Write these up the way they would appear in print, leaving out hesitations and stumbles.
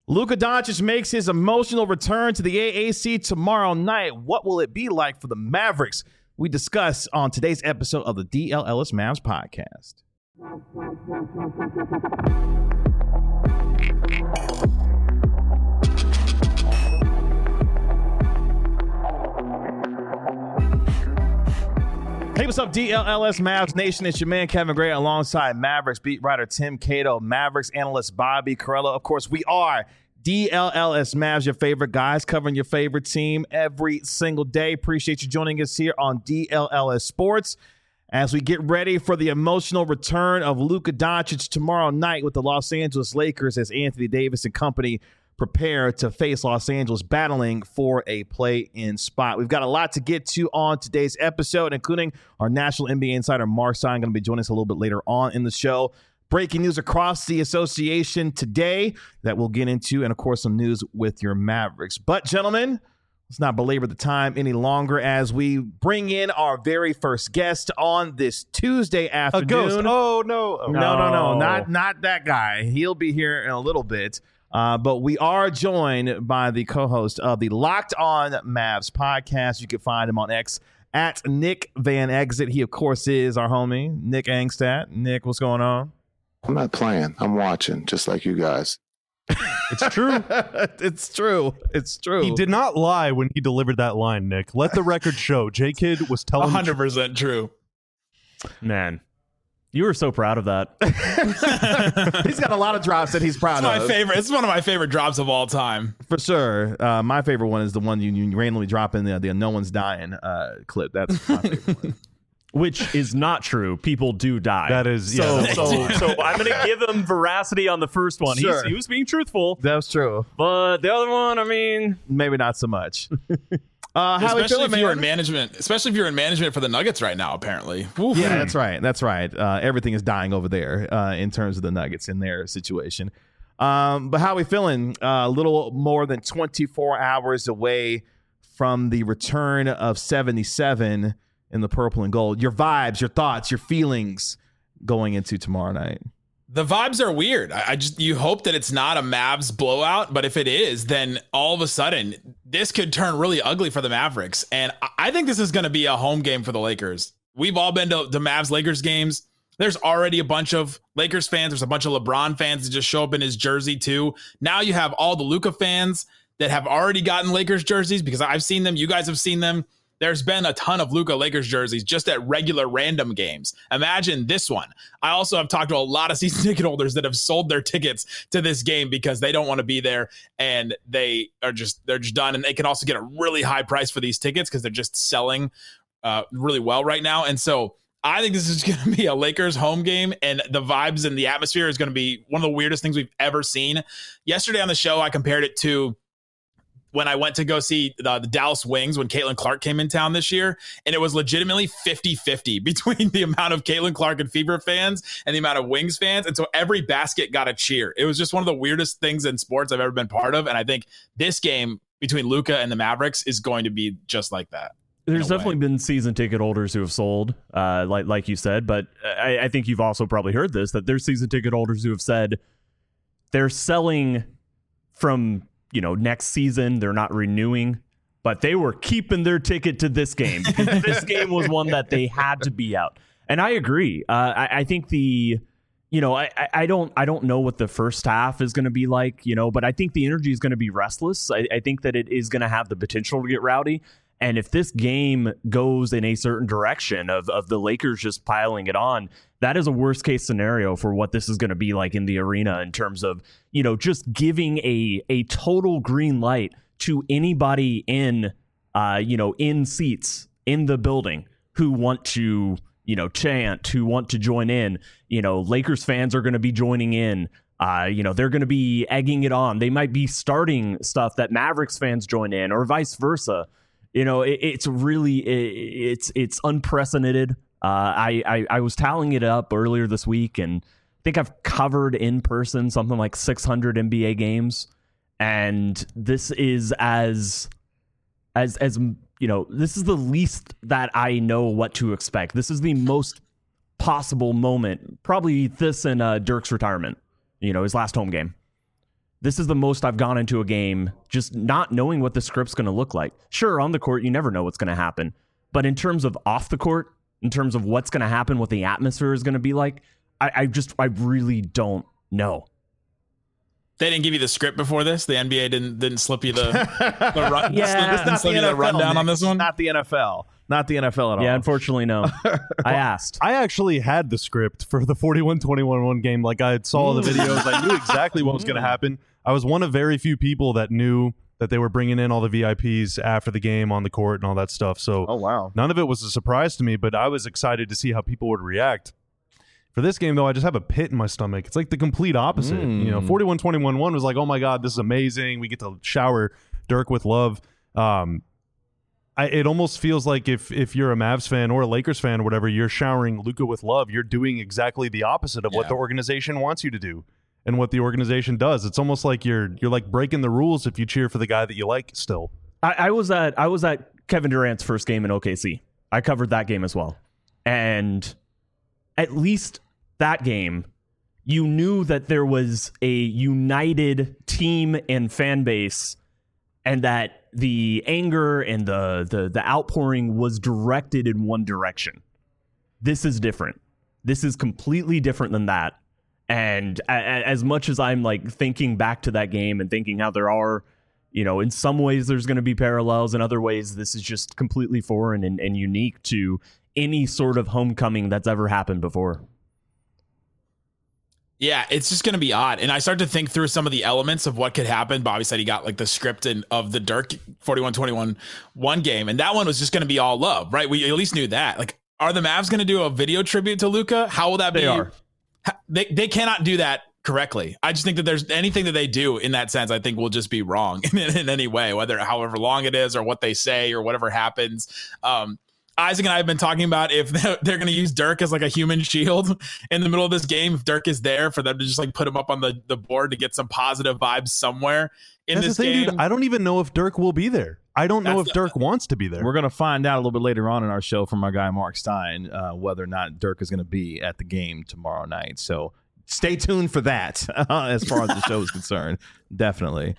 Luka Doncic makes his emotional return to the AAC tomorrow night. What will it be like for the Mavericks? We discuss on today's episode of the DLLS Mavs podcast. Hey, what's up, DLLS Mavs Nation? It's your man, Kevin Gray, alongside Mavericks beat writer Tim Cato, Mavericks analyst Bobby Carello. Of course, we are DLLS Mavs, your favorite guys, covering your favorite team every single day. Appreciate you joining us here on DLLS Sports as we get ready for the emotional return of Luka Doncic tomorrow night with the Los Angeles Lakers as Anthony Davis and company prepare to face Los Angeles battling for a play-in spot. We've got a lot to get to on today's episode, including our national NBA insider Mark Stein going to be joining us a little bit later on in the show. Breaking news across the association today that we'll get into, and of course some news with your Mavericks. But gentlemen, let's not belabor the time any longer as we bring in our very first guest on this Tuesday afternoon. A ghost. Oh, no. No. Not that guy. He'll be here in a little bit. But we are joined by the co-host of the Locked On Mavs podcast. You can find him on X at Nick Van Exit. He, of course, is our homie, Nick Angstadt. Nick, what's going on? I'm not playing. I'm watching, just like you guys. It's true. It's true. It's true. He did not lie when he delivered that line, Nick. Let the record show. J-Kid was telling 100% true. Man, you were so proud of that. He's got a lot of drops that he's proud of. It's one of my favorite drops of all time. For sure. My favorite one is the one you randomly drop in the No One's Dying clip. That's my favorite one. Which is not true. People do die. That is, so yeah. I'm going to give him veracity on the first one. Sure. He was being truthful. That's true. But the other one, I mean, maybe not so much. Especially if you're in management for the Nuggets right now, apparently. Oof. Yeah, that's right. Everything is dying over there in terms of the Nuggets in their situation. But how are we feeling? A little more than 24 hours away from the return of 77 in the purple and gold. Your vibes, your thoughts, your feelings going into tomorrow night. The vibes are weird. You hope that it's not a Mavs blowout, but if it is, then all of a sudden this could turn really ugly for the Mavericks. And I think this is going to be a home game for the Lakers. We've all been to the Mavs-Lakers games. There's already a bunch of Lakers fans. There's a bunch of LeBron fans that just show up in his jersey too. Now you have all the Luka fans that have already gotten Lakers jerseys because I've seen them. You guys have seen them. There's been a ton of Luka Lakers jerseys just at regular random games. Imagine this one. I also have talked to a lot of season ticket holders that have sold their tickets to this game because they don't want to be there and they're just done. And they can also get a really high price for these tickets because they're just selling really well right now. And so I think this is going to be a Lakers home game, and the vibes and the atmosphere is going to be one of the weirdest things we've ever seen. Yesterday on the show, I compared it to when I went to go see the Dallas Wings when Caitlin Clark came in town this year, and it was legitimately 50-50 between the amount of Caitlin Clark and Fever fans and the amount of Wings fans. And so every basket got a cheer. It was just one of the weirdest things in sports I've ever been part of. And I think this game between Luka and the Mavericks is going to be just like that. There's definitely been season ticket holders who have sold, like you said, but I think you've also probably heard this, that there's season ticket holders who have said they're selling from next season. They're not renewing, but they were keeping their ticket to this game because this game was one that they had to be out. And I agree. I think I don't know what the first half is going to be like, but I think the energy is going to be restless. I think that it is going to have the potential to get rowdy. And if this game goes in a certain direction of the Lakers just piling it on, that is a worst case scenario for what this is going to be like in the arena in terms of, just giving a total green light to anybody in seats in the building who want to, chant, who want to join in. Lakers fans are going to be joining in. They're going to be egging it on. They might be starting stuff that Mavericks fans join in or vice versa. It's really, it's unprecedented. I was tallying it up earlier this week, and I think I've covered in person something like 600 NBA games. And this is this is the least that I know what to expect. This is the most possible moment, probably this and Dirk's retirement, his last home game. This is the most I've gone into a game just not knowing what the script's going to look like. Sure, on the court, you never know what's going to happen. But in terms of off the court, in terms of what's going to happen, what the atmosphere is going to be like, I really don't know. They didn't give you the script before this. The NBA didn't slip you the run. Yeah, it's not the NFL, rundown on this one. Not the NFL. Not the NFL at all. Yeah, unfortunately, no. I asked. I actually had the script for the 41-21 game. Like, I saw the videos. I knew exactly what was going to happen. I was one of very few people that knew that they were bringing in all the VIPs after the game on the court and all that stuff. So oh, wow. None of it was a surprise to me, but I was excited to see how people would react. For this game, though, I just have a pit in my stomach. It's like the complete opposite. 41-21-1 was like, oh my God, this is amazing. We get to shower Dirk with love. It almost feels like if you're a Mavs fan or a Lakers fan or whatever, you're showering Luka with love. You're doing exactly the opposite of what the organization wants you to do and what the organization does. It's almost like you're like breaking the rules if you cheer for the guy that you like still. I was at Kevin Durant's first game in OKC. I covered that game as well. And at least that game, you knew that there was a united team and fan base, and that the anger and the outpouring was directed in one direction. This is different. This is completely different than that. And as much as I'm like thinking back to that game and thinking how there are, in some ways there's going to be parallels, in other ways this is just completely foreign and unique to any sort of homecoming that's ever happened before. Yeah, it's just going to be odd. And I start to think through some of the elements of what could happen. Bobby said he got like the script of the Dirk 41-21 one game. And that one was just going to be all love, right? We at least knew that. Like, are the Mavs going to do a video tribute to Luka? How will that be? They are. They cannot do that correctly. I just think that there's anything that they do in that sense, I think will just be wrong in any way, however long it is or what they say or whatever happens. Isaac and I have been talking about if they're going to use Dirk as like a human shield in the middle of this game. If Dirk is there, for them to just like put him up on the board to get some positive vibes somewhere in this game. Dude, I don't even know if Dirk will be there. I don't know if Dirk wants to be there. We're going to find out a little bit later on in our show from our guy Mark Stein whether or not Dirk is going to be at the game tomorrow night. So stay tuned for that as far as the show is concerned. Definitely.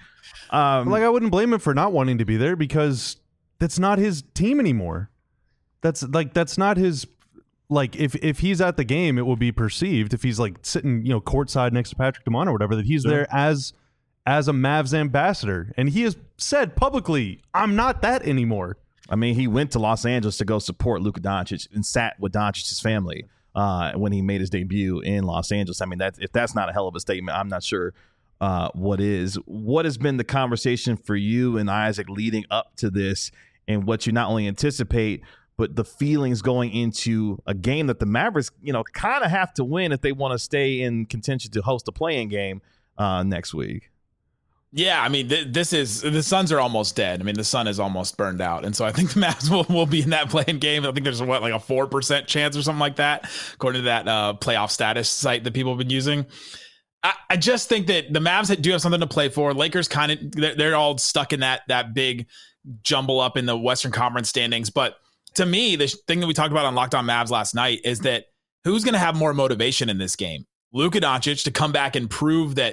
I wouldn't blame him for not wanting to be there because that's not his team anymore. That's not his, like, if he's at the game, it will be perceived, if he's like sitting, courtside next to Patrick DeMont or whatever, that he's there as a Mavs ambassador. And he has said publicly, I'm not that anymore. I mean, he went to Los Angeles to go support Luka Doncic and sat with Doncic's family when he made his debut in Los Angeles. I mean, if that's not a hell of a statement, I'm not sure what is. What has been the conversation for you and Isaac leading up to this, and what you not only anticipate, but the feelings going into a game that the Mavericks, kind of have to win if they want to stay in contention to host a play-in game next week? Yeah, I mean, the Suns are almost dead. I mean, the sun is almost burned out. And so I think the Mavs will be in that play-in game. I think there's like a 4% chance or something like that, according to that playoff status site that people have been using. I just think that the Mavs do have something to play for. Lakers kind of, they're all stuck in that big jumble up in the Western Conference standings. But to me, the thing that we talked about on Locked On Mavs last night is that who's going to have more motivation in this game? Luka Doncic to come back and prove that,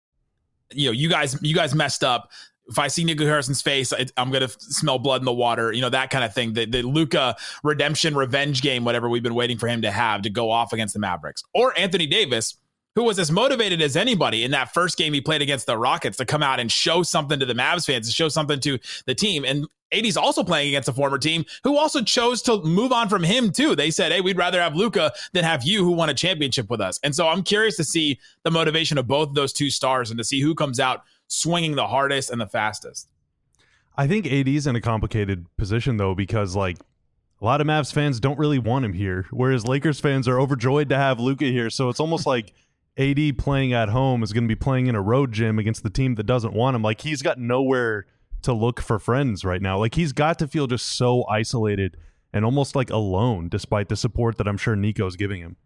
you guys messed up. If I see Nico Harrison's face, I'm going to smell blood in the water, that kind of thing. The Luka redemption revenge game, whatever we've been waiting for him to have to go off against the Mavericks. Or Anthony Davis, who was as motivated as anybody in that first game he played against the Rockets to come out and show something to the Mavs fans, to show something to the team. And AD's also playing against a former team who also chose to move on from him too. They said, hey, we'd rather have Luka than have you, who won a championship with us. And so I'm curious to see the motivation of both of those two stars and to see who comes out swinging the hardest and the fastest. I think AD's in a complicated position though, because like a lot of Mavs fans don't really want him here, whereas Lakers fans are overjoyed to have Luka here. So it's almost like AD playing at home is going to be playing in a road gym against the team that doesn't want him. Like, he's got nowhere to look for friends right now. Like, he's got to feel just so isolated and almost like alone, despite the support that I'm sure Nico's giving him.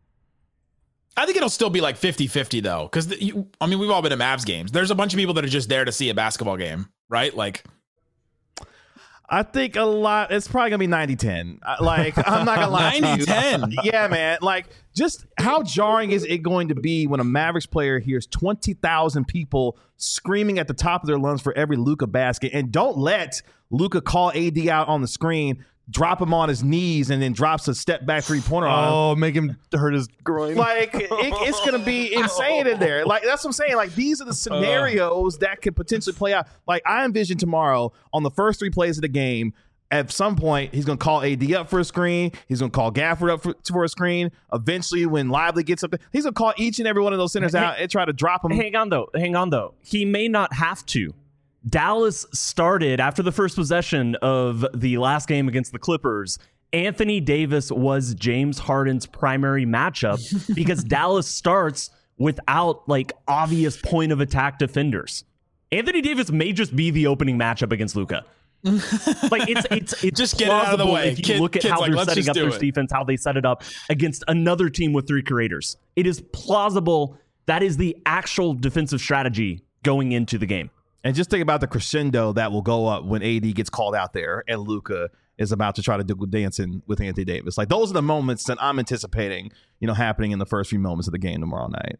I think it'll still be like 50-50 though. Cause we've all been to Mavs games. There's a bunch of people that are just there to see a basketball game, right? Like, I think a lot. It's probably gonna be 90-10. Like, I'm not gonna lie to you. 90-10. Yeah, man. Like, just how jarring is it going to be when a Mavericks player hears 20,000 people screaming at the top of their lungs for every Luka basket, and don't let Luka call AD out on the screen, drop him on his knees, and then drops a step back 3-pointer on him. Oh, make him hurt his groin. Like, it's going to be insane in there. Like, that's what I'm saying. Like, these are the scenarios that could potentially play out. Like, I envision tomorrow on the first 3 plays of the game, at some point, he's going to call AD up for a screen. He's going to call Gafford up for a screen. Eventually, when Lively gets up there, he's going to call each and every one of those centers out and try to drop them. Hang on, though. He may not have to. Dallas started after the first possession of the last game against the Clippers. Anthony Davis was James Harden's primary matchup because Dallas starts without like obvious point of attack defenders. Anthony Davis may just be the opening matchup against Luka. Like it's just get it out of the way. If you look at how like, they're setting up their it. defense, how they set it up against another team with 3 creators. It is plausible that is the actual defensive strategy going into the game. And just think about the crescendo that will go up when AD gets called out there and Luka is about to try to do dancing with Anthony Davis. Like, those are the moments that I'm anticipating, happening in the first few moments of the game tomorrow night.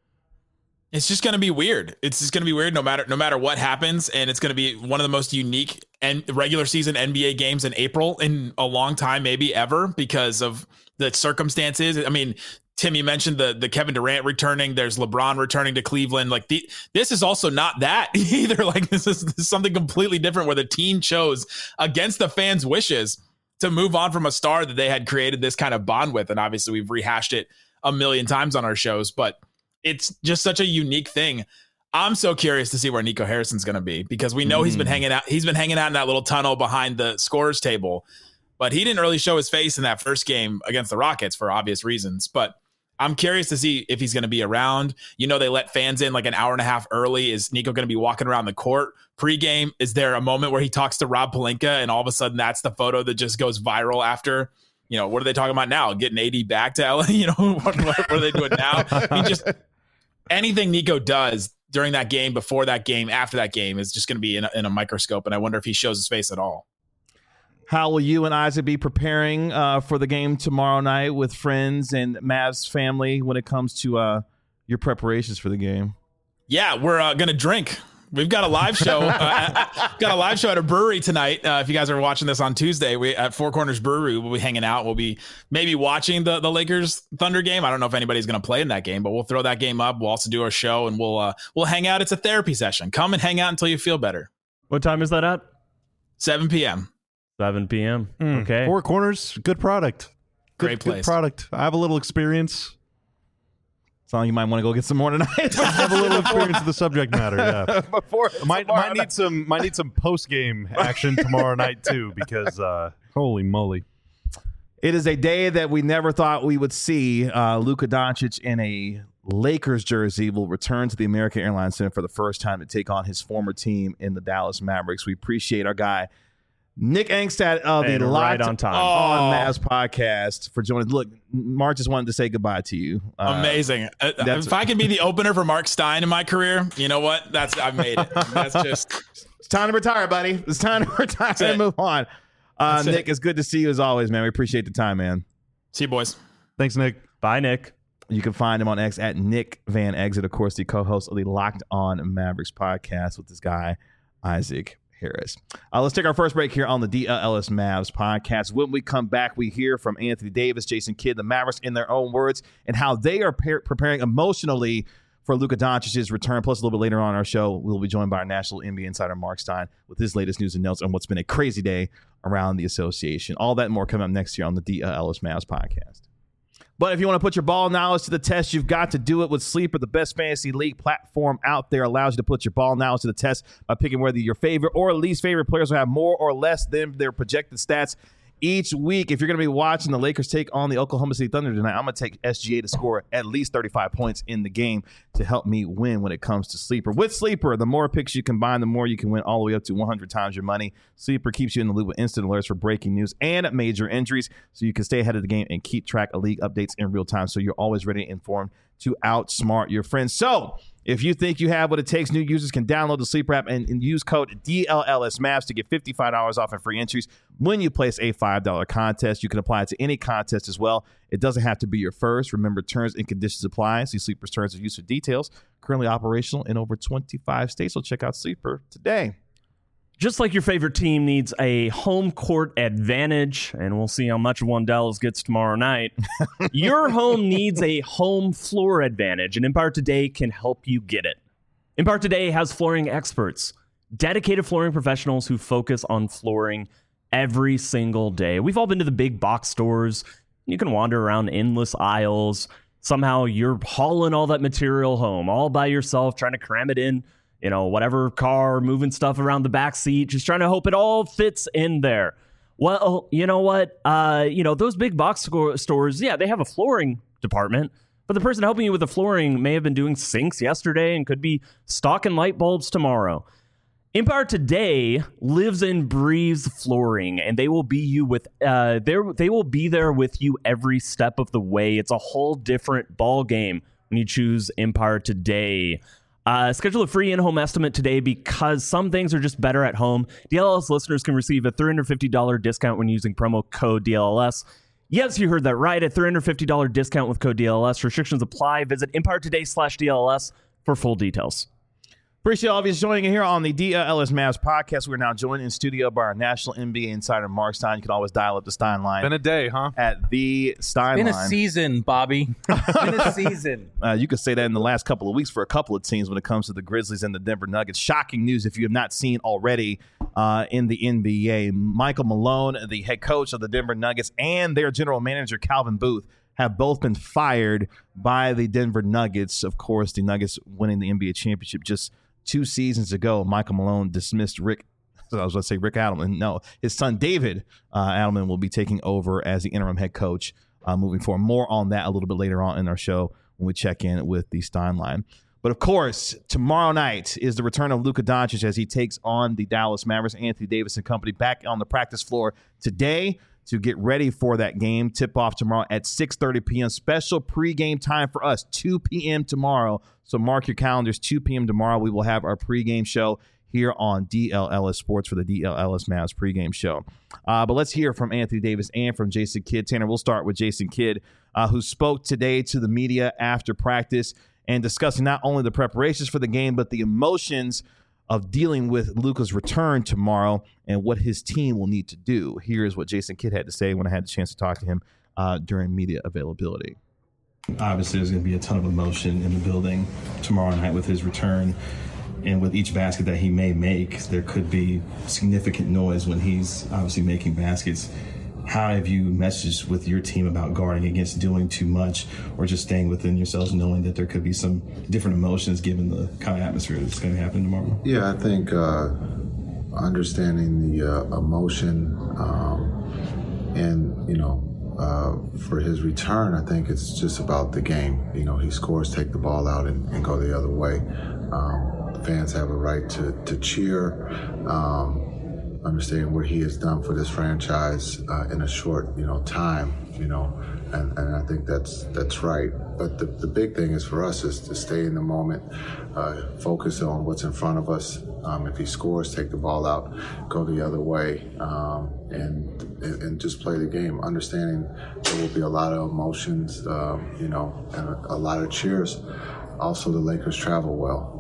It's just going to be weird. It's just going to be weird no matter what happens, and it's going to be one of the most unique and regular season NBA games in April in a long time, maybe ever, because of the circumstances. I mean, Tim, you mentioned the Kevin Durant returning. There's LeBron returning to Cleveland. Like, this is also not that either. Like, this is something completely different where the team chose against the fans' wishes to move on from a star that they had created this kind of bond with. And obviously we've rehashed it a million times on our shows, but it's just such a unique thing. I'm so curious to see where Nico Harrison's going to be, because we know he's been hanging out. He's been hanging out in that little tunnel behind the scorers table, but he didn't really show his face in that first game against the Rockets for obvious reasons. But I'm curious to see if he's going to be around. They let fans in like an hour and a half early. Is Nico going to be walking around the court pregame? Is there a moment where he talks to Rob Pelinka and all of a sudden that's the photo that just goes viral after? What are they talking about now? Getting AD back to LA? What are they doing now? I mean, just anything Nico does during that game, before that game, after that game is just going to be in a microscope. And I wonder if he shows his face at all. How will you and Isaac be preparing for the game tomorrow night with friends and Mavs family when it comes to your preparations for the game? Yeah, we're going to drink. We've got a live show. Got a live show at a brewery tonight. If you guys are watching this on Tuesday, we at Four Corners Brewery, we'll be hanging out. We'll be maybe watching the Lakers Thunder game. I don't know if anybody's going to play in that game, but we'll throw that game up. We'll also do our show, and we'll hang out. It's a therapy session. Come and hang out until you feel better. What time is that at? 7 p.m. 7 p.m. Okay. Four Corners, good product. Great place. Good product. I have a little experience. Sound like you might want to go get some more tonight. I have a little experience with the subject matter. Yeah. Might need some post game action tomorrow night too, because holy moly, it is a day that we never thought we would see. Luka Doncic in a Lakers jersey will return to the American Airlines Center for the first time to take on his former team in the Dallas Mavericks. We appreciate our guy Nick Angstad of the Locked on Mavs podcast for joining. Look, Mark just wanted to say goodbye to you. Amazing. If I can be the opener for Mark Stein in my career, you know what? I've made it. That's just. It's time to retire, buddy. It's time to retire and move on. Nick, it's good to see you as always, man. We appreciate the time, man. See you, boys. Thanks, Nick. Bye, Nick. You can find him on X at Nick Van Exit, of course, the co-host of the Locked On Mavericks podcast with this guy, Isaac Harris. Let's take our first break here on the DLS Mavs podcast. When we come back, we hear from Anthony Davis, Jason Kidd, the Mavericks in their own words, and how they are preparing emotionally for Luka Doncic's return. Plus, a little bit later on our show, we'll be joined by our national NBA insider, Mark Stein, with his latest news and notes on what's been a crazy day around the association. All that and more coming up next year on the DLS Mavs podcast. But if you want to put your ball knowledge to the test, you've got to do it with Sleeper. The best fantasy league platform out there allows you to put your ball knowledge to the test by picking whether your favorite or least favorite players will have more or less than their projected stats each week. If you're going to be watching the Lakers take on the Oklahoma City Thunder tonight, I'm going to take SGA to score at least 35 points in the game to help me win when it comes to Sleeper. With Sleeper, the more picks you combine, the more you can win, all the way up to 100 times your money. Sleeper keeps you in the loop with instant alerts for breaking news and major injuries, so you can stay ahead of the game and keep track of league updates in real time, so you're always ready and informed to outsmart your friends. So If you think you have what it takes, new users can download the Sleeper app and use code DLLSMAVs to get $55 off and free entries when you place a $5 contest. You can apply it to any contest as well. It doesn't have to be your first. Remember, terms and conditions apply. See Sleeper's terms of use for details. Currently operational in over 25 states. So check out Sleeper today. Just like your favorite team needs a home court advantage, and we'll see how much one Dallas gets tomorrow night, your home needs a home floor advantage, and Empire Today can help you get it. Empire Today has flooring experts, dedicated flooring professionals who focus on flooring every single day. We've all been to the big box stores. You can wander around endless aisles. Somehow you're hauling all that material home all by yourself, trying to cram it in, whatever car, moving stuff around the back seat, just trying to hope it all fits in there. Well, you know what? Those big box stores, yeah, they have a flooring department, but the person helping you with the flooring may have been doing sinks yesterday and could be stocking light bulbs tomorrow. Empire Today lives and breathes flooring, and they will be they will be there with you every step of the way. It's a whole different ball game when you choose Empire Today. Schedule a free in-home estimate today because some things are just better at home. DLLS listeners can receive a $350 discount when using promo code DLLS. Yes, you heard that right. A $350 discount with code DLLS. Restrictions apply. Visit EmpireToday.com/DLLS for full details. Appreciate all of you joining in here on the DLS Mavs podcast. We're now joined in studio by our national NBA insider, Mark Stein. You can always dial up the Stein line. Been a day, huh? At the Stein line. Been a season, Bobby. Been a season. You could say that in the last couple of weeks for a couple of teams when it comes to the Grizzlies and the Denver Nuggets. Shocking news if you have not seen already in the NBA. Michael Malone, the head coach of the Denver Nuggets, and their general manager, Calvin Booth, have both been fired by the Denver Nuggets. Of course, the Nuggets winning the NBA championship just 2 seasons ago. Michael Malone dismissed Rick Adelman. No, his son David Adelman will be taking over as the interim head coach moving forward. More on that a little bit later on in our show when we check in with the Stein line. But of course, tomorrow night is the return of Luka Doncic as he takes on the Dallas Mavericks. Anthony Davis and company back on the practice floor today to get ready for that game. Tip-off tomorrow at 6:30 p.m. Special pregame time for us, 2 p.m. tomorrow. So mark your calendars, 2 p.m. tomorrow. We will have our pregame show here on DLLS Sports for the DLLS Mavs pregame show. But let's hear from Anthony Davis and from Jason Kidd. Tanner, we'll start with Jason Kidd, who spoke today to the media after practice and discussing not only the preparations for the game, but the emotions of dealing with Luka's return tomorrow and what his team will need to do. Here's what Jason Kidd had to say when I had the chance to talk to him during media availability. Obviously, there's going to be a ton of emotion in the building tomorrow night with his return. And with each basket that he may make, there could be significant noise when he's obviously making baskets. How have you messaged with your team about guarding against doing too much or just staying within yourselves, knowing that there could be some different emotions given the kind of atmosphere that's going to happen tomorrow? Yeah, I think understanding the emotion and, for his return, I think it's just about the game. He scores, take the ball out, and go the other way. Fans have a right to cheer. Understanding what he has done for this franchise in a short, time, and I think that's right. But the big thing is for us is to stay in the moment, focus on what's in front of us. If he scores, take the ball out, go the other way, and just play the game. Understanding there will be a lot of emotions, and a lot of cheers. Also, the Lakers travel well,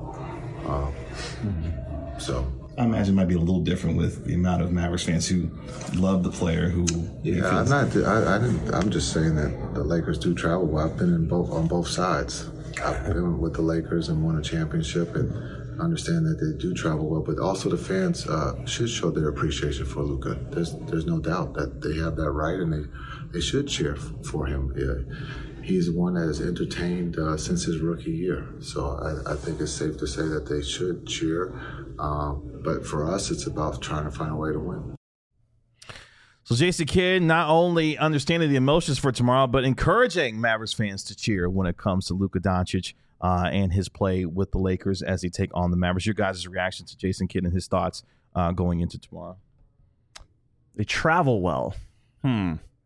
so. I imagine it might be a little different with the amount of Mavericks fans who love the player who. Yeah, I'm just saying that the Lakers do travel well. I've been on both sides. I've been with the Lakers and won a championship, and understand that they do travel well. But also the fans should show their appreciation for Luka. There's no doubt that they have that right, and they should cheer for him. Yeah. He's one that has entertained since his rookie year. So I think it's safe to say that they should cheer. But for us, it's about trying to find a way to win. So Jason Kidd not only understanding the emotions for tomorrow, but encouraging Mavericks fans to cheer when it comes to Luka Doncic and his play with the Lakers as they take on the Mavericks. Your guys' reaction to Jason Kidd and his thoughts going into tomorrow? They travel well.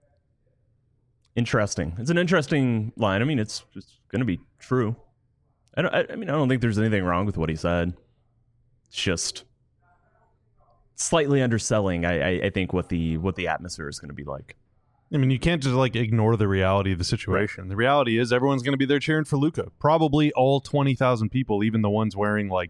Interesting. It's an interesting line. I mean, it's going to be true. I don't think there's anything wrong with what he said. It's just slightly underselling, I think, what the atmosphere is going to be like. I mean, you can't just like ignore the reality of the situation. Right. The reality is everyone's going to be there cheering for Luka. Probably all 20,000 people, even the ones wearing like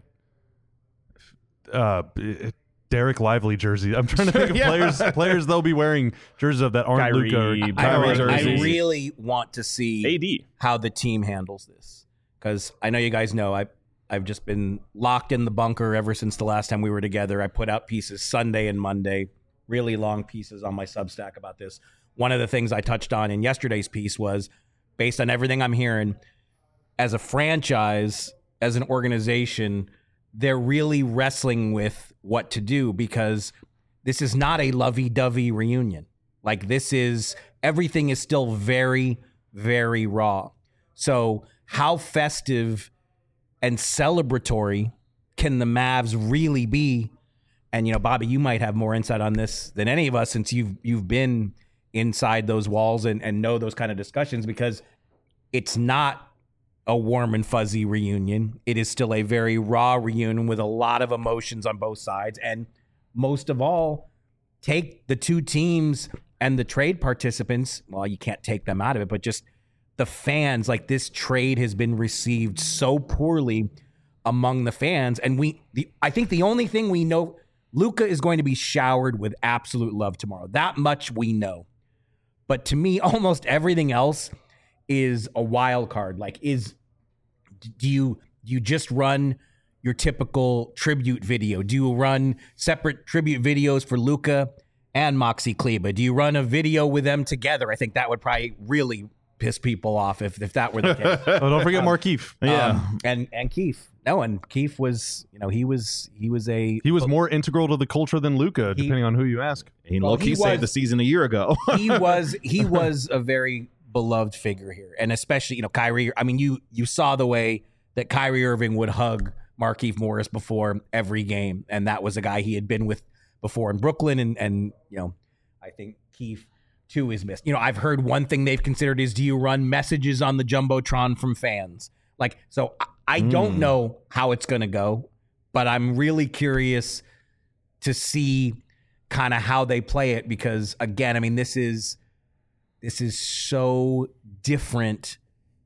Derek Lively jerseys. I'm trying to think of players they'll be wearing jerseys of that aren't Luka. I really want to see AD how the team handles this, because I know you guys know I've just been locked in the bunker ever since the last time we were together. I put out pieces Sunday and Monday, really long pieces on my Substack about this. One of the things I touched on in yesterday's piece was, based on everything I'm hearing, as a franchise, as an organization, they're really wrestling with what to do, because this is not a lovey-dovey reunion. Like, everything is still very, very raw. So how festive and celebratory can the Mavs really be? And, Bobby, you might have more insight on this than any of us, since you've been inside those walls and know those kind of discussions, because it's not a warm and fuzzy reunion. It is still a very raw reunion with a lot of emotions on both sides. And most of all, take the two teams and the trade participants. Well, you can't take them out of it, but just the fans. Like, this trade has been received so poorly among the fans. And I think the only thing we know, Luka is going to be showered with absolute love tomorrow. That much we know. But to me, almost everything else is a wild card. Like, do you just run your typical tribute video? Do you run separate tribute videos for Luka and Maxi Kleber? Do you run a video with them together? I think that would probably really piss people off if that were the case. Oh, don't forget Markieff. And Keith. No, and Keith was, he was more integral to the culture than Luka, depending on who you ask. He saved the season a year ago. he was a very beloved figure here, and especially Kyrie. I mean, you saw the way that Kyrie Irving would hug Markieff Morris before every game, and that was a guy he had been with before in Brooklyn, and I think Keith too is missed. I've heard one thing they've considered is, do you run messages on the Jumbotron from fans? Like, so I don't know how it's going to go, but I'm really curious to see kind of how they play it, because again, I mean, this is so different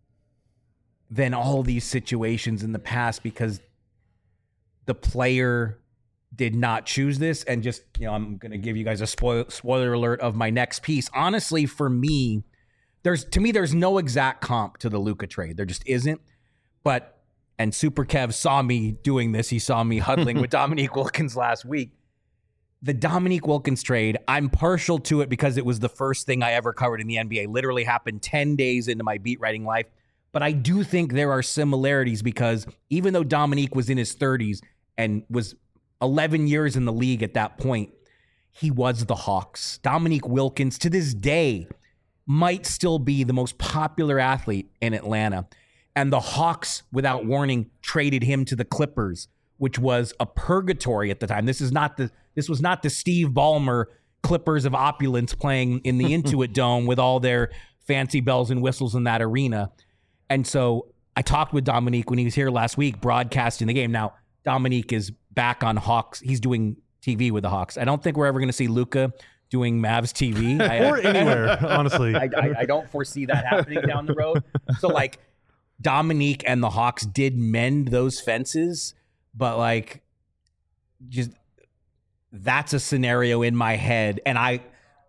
than all these situations in the past, because the player did not choose this. And just, I'm going to give you guys a spoiler alert of my next piece. Honestly, for me, there's no exact comp to the Luka trade. There just isn't. And Super Kev saw me doing this. He saw me huddling with Dominique Wilkins last week. The Dominique Wilkins trade, I'm partial to it because it was the first thing I ever covered in the NBA. Literally happened 10 days into my beat writing life. But I do think there are similarities, because even though Dominique was in his 30s and was 11 years in the league at that point, he was the Hawks. Dominique Wilkins, to this day, might still be the most popular athlete in Atlanta. And the Hawks, without warning, traded him to the Clippers, which was a purgatory at the time. This was not the Steve Ballmer Clippers of opulence playing in the Intuit Dome with all their fancy bells and whistles in that arena. And so I talked with Dominique when he was here last week, broadcasting the game. Now, Dominique is back on Hawks. He's doing TV with the Hawks. I don't think we're ever going to see Luka doing Mavs TV. Or anywhere, honestly. I don't foresee that happening down the road. So, like, Dominique and the Hawks did mend those fences, but like, just that's a scenario in my head. And I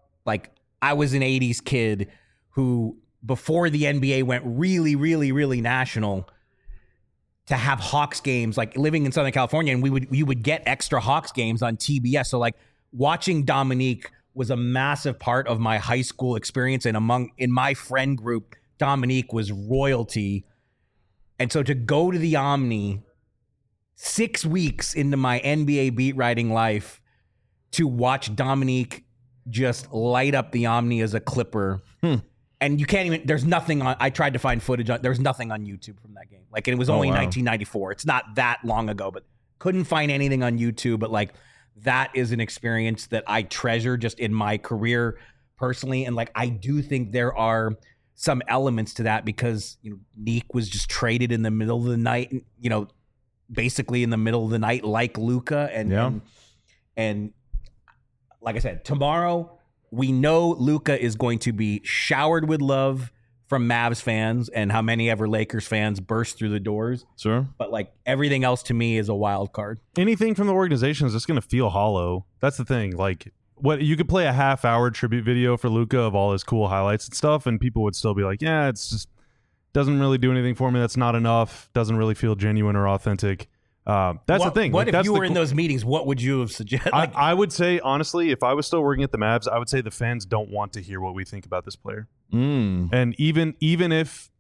was an 80s kid who, before the NBA went really, really, really national, to have Hawks games, like living in Southern California, and you would get extra Hawks games on TBS. So like, watching Dominique was a massive part of my high school experience, and in my friend group, Dominique was royalty. And so to go to the Omni 6 weeks into my NBA beat writing life to watch Dominique just light up the Omni as a Clipper. And you can't even, there's nothing on, I tried to find footage on, there's nothing on YouTube from that game. Like, it was only 1994. It's not that long ago, but couldn't find anything on YouTube. But like, that is an experience that I treasure just in my career personally. And like, I do think there are some elements to that because Neek was just traded in the middle of the night, basically in the middle of the night, like Luka, and like I said, tomorrow we know Luka is going to be showered with love from Mavs fans, and how many ever Lakers fans burst through the doors. Sure. But like everything else to me is a wild card. Anything from the organization is just going to feel hollow. That's the thing. Like, what you could play a half-hour tribute video for Luka of all his cool highlights and stuff, and people would still be like, yeah, it's just doesn't really do anything for me. That's not enough. Doesn't really feel genuine or authentic. That's the thing. What like, if you were in those meetings? What would you have suggested? I would say, honestly, if I was still working at the Mavs, I would say the fans don't want to hear what we think about this player. And even if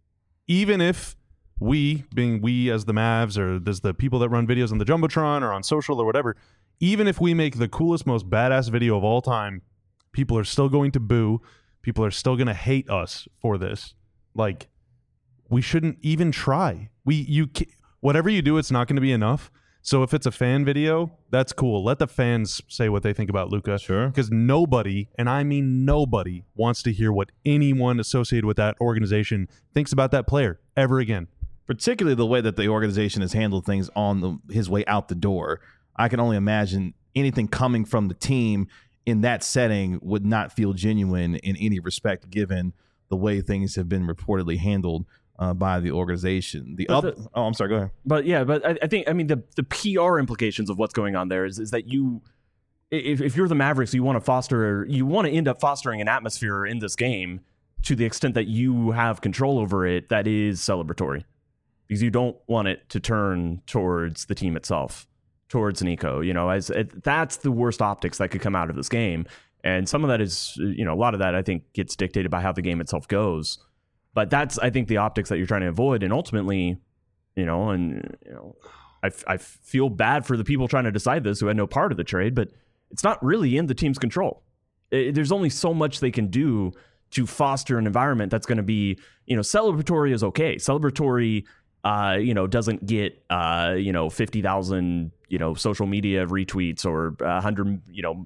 we, being we as the Mavs, or as the people that run videos on the Jumbotron or on social or whatever, even if we make the coolest, most badass video of all time, people are still going to boo. People are still going to hate us for this. Like, we shouldn't even try. Whatever you do, it's not going to be enough. So if it's a fan video, that's cool. Let the fans say what they think about Luka. Sure. Because nobody, and I mean nobody, wants to hear what anyone associated with that organization thinks about that player ever again. Particularly the way that the organization has handled things on his way out the door. I can only imagine anything coming from the team in that setting would not feel genuine in any respect, given the way things have been reportedly handled by the organization. I'm sorry, go ahead. But yeah, but I think, I mean, the PR implications of what's going on there is that if you're the Mavericks, you want to end up fostering an atmosphere in this game to the extent that you have control over it that is celebratory, because you don't want it to turn towards the team itself, towards Nico. That's the worst optics that could come out of this game. And some of that is, a lot of that I think gets dictated by how the game itself goes. But that's, I think, the optics that you're trying to avoid. And ultimately, I feel bad for the people trying to decide this who had no part of the trade, but it's not really in the team's control. There's only so much they can do to foster an environment that's going to be, celebratory is okay. Celebratory, doesn't get, 50,000, social media retweets or 100,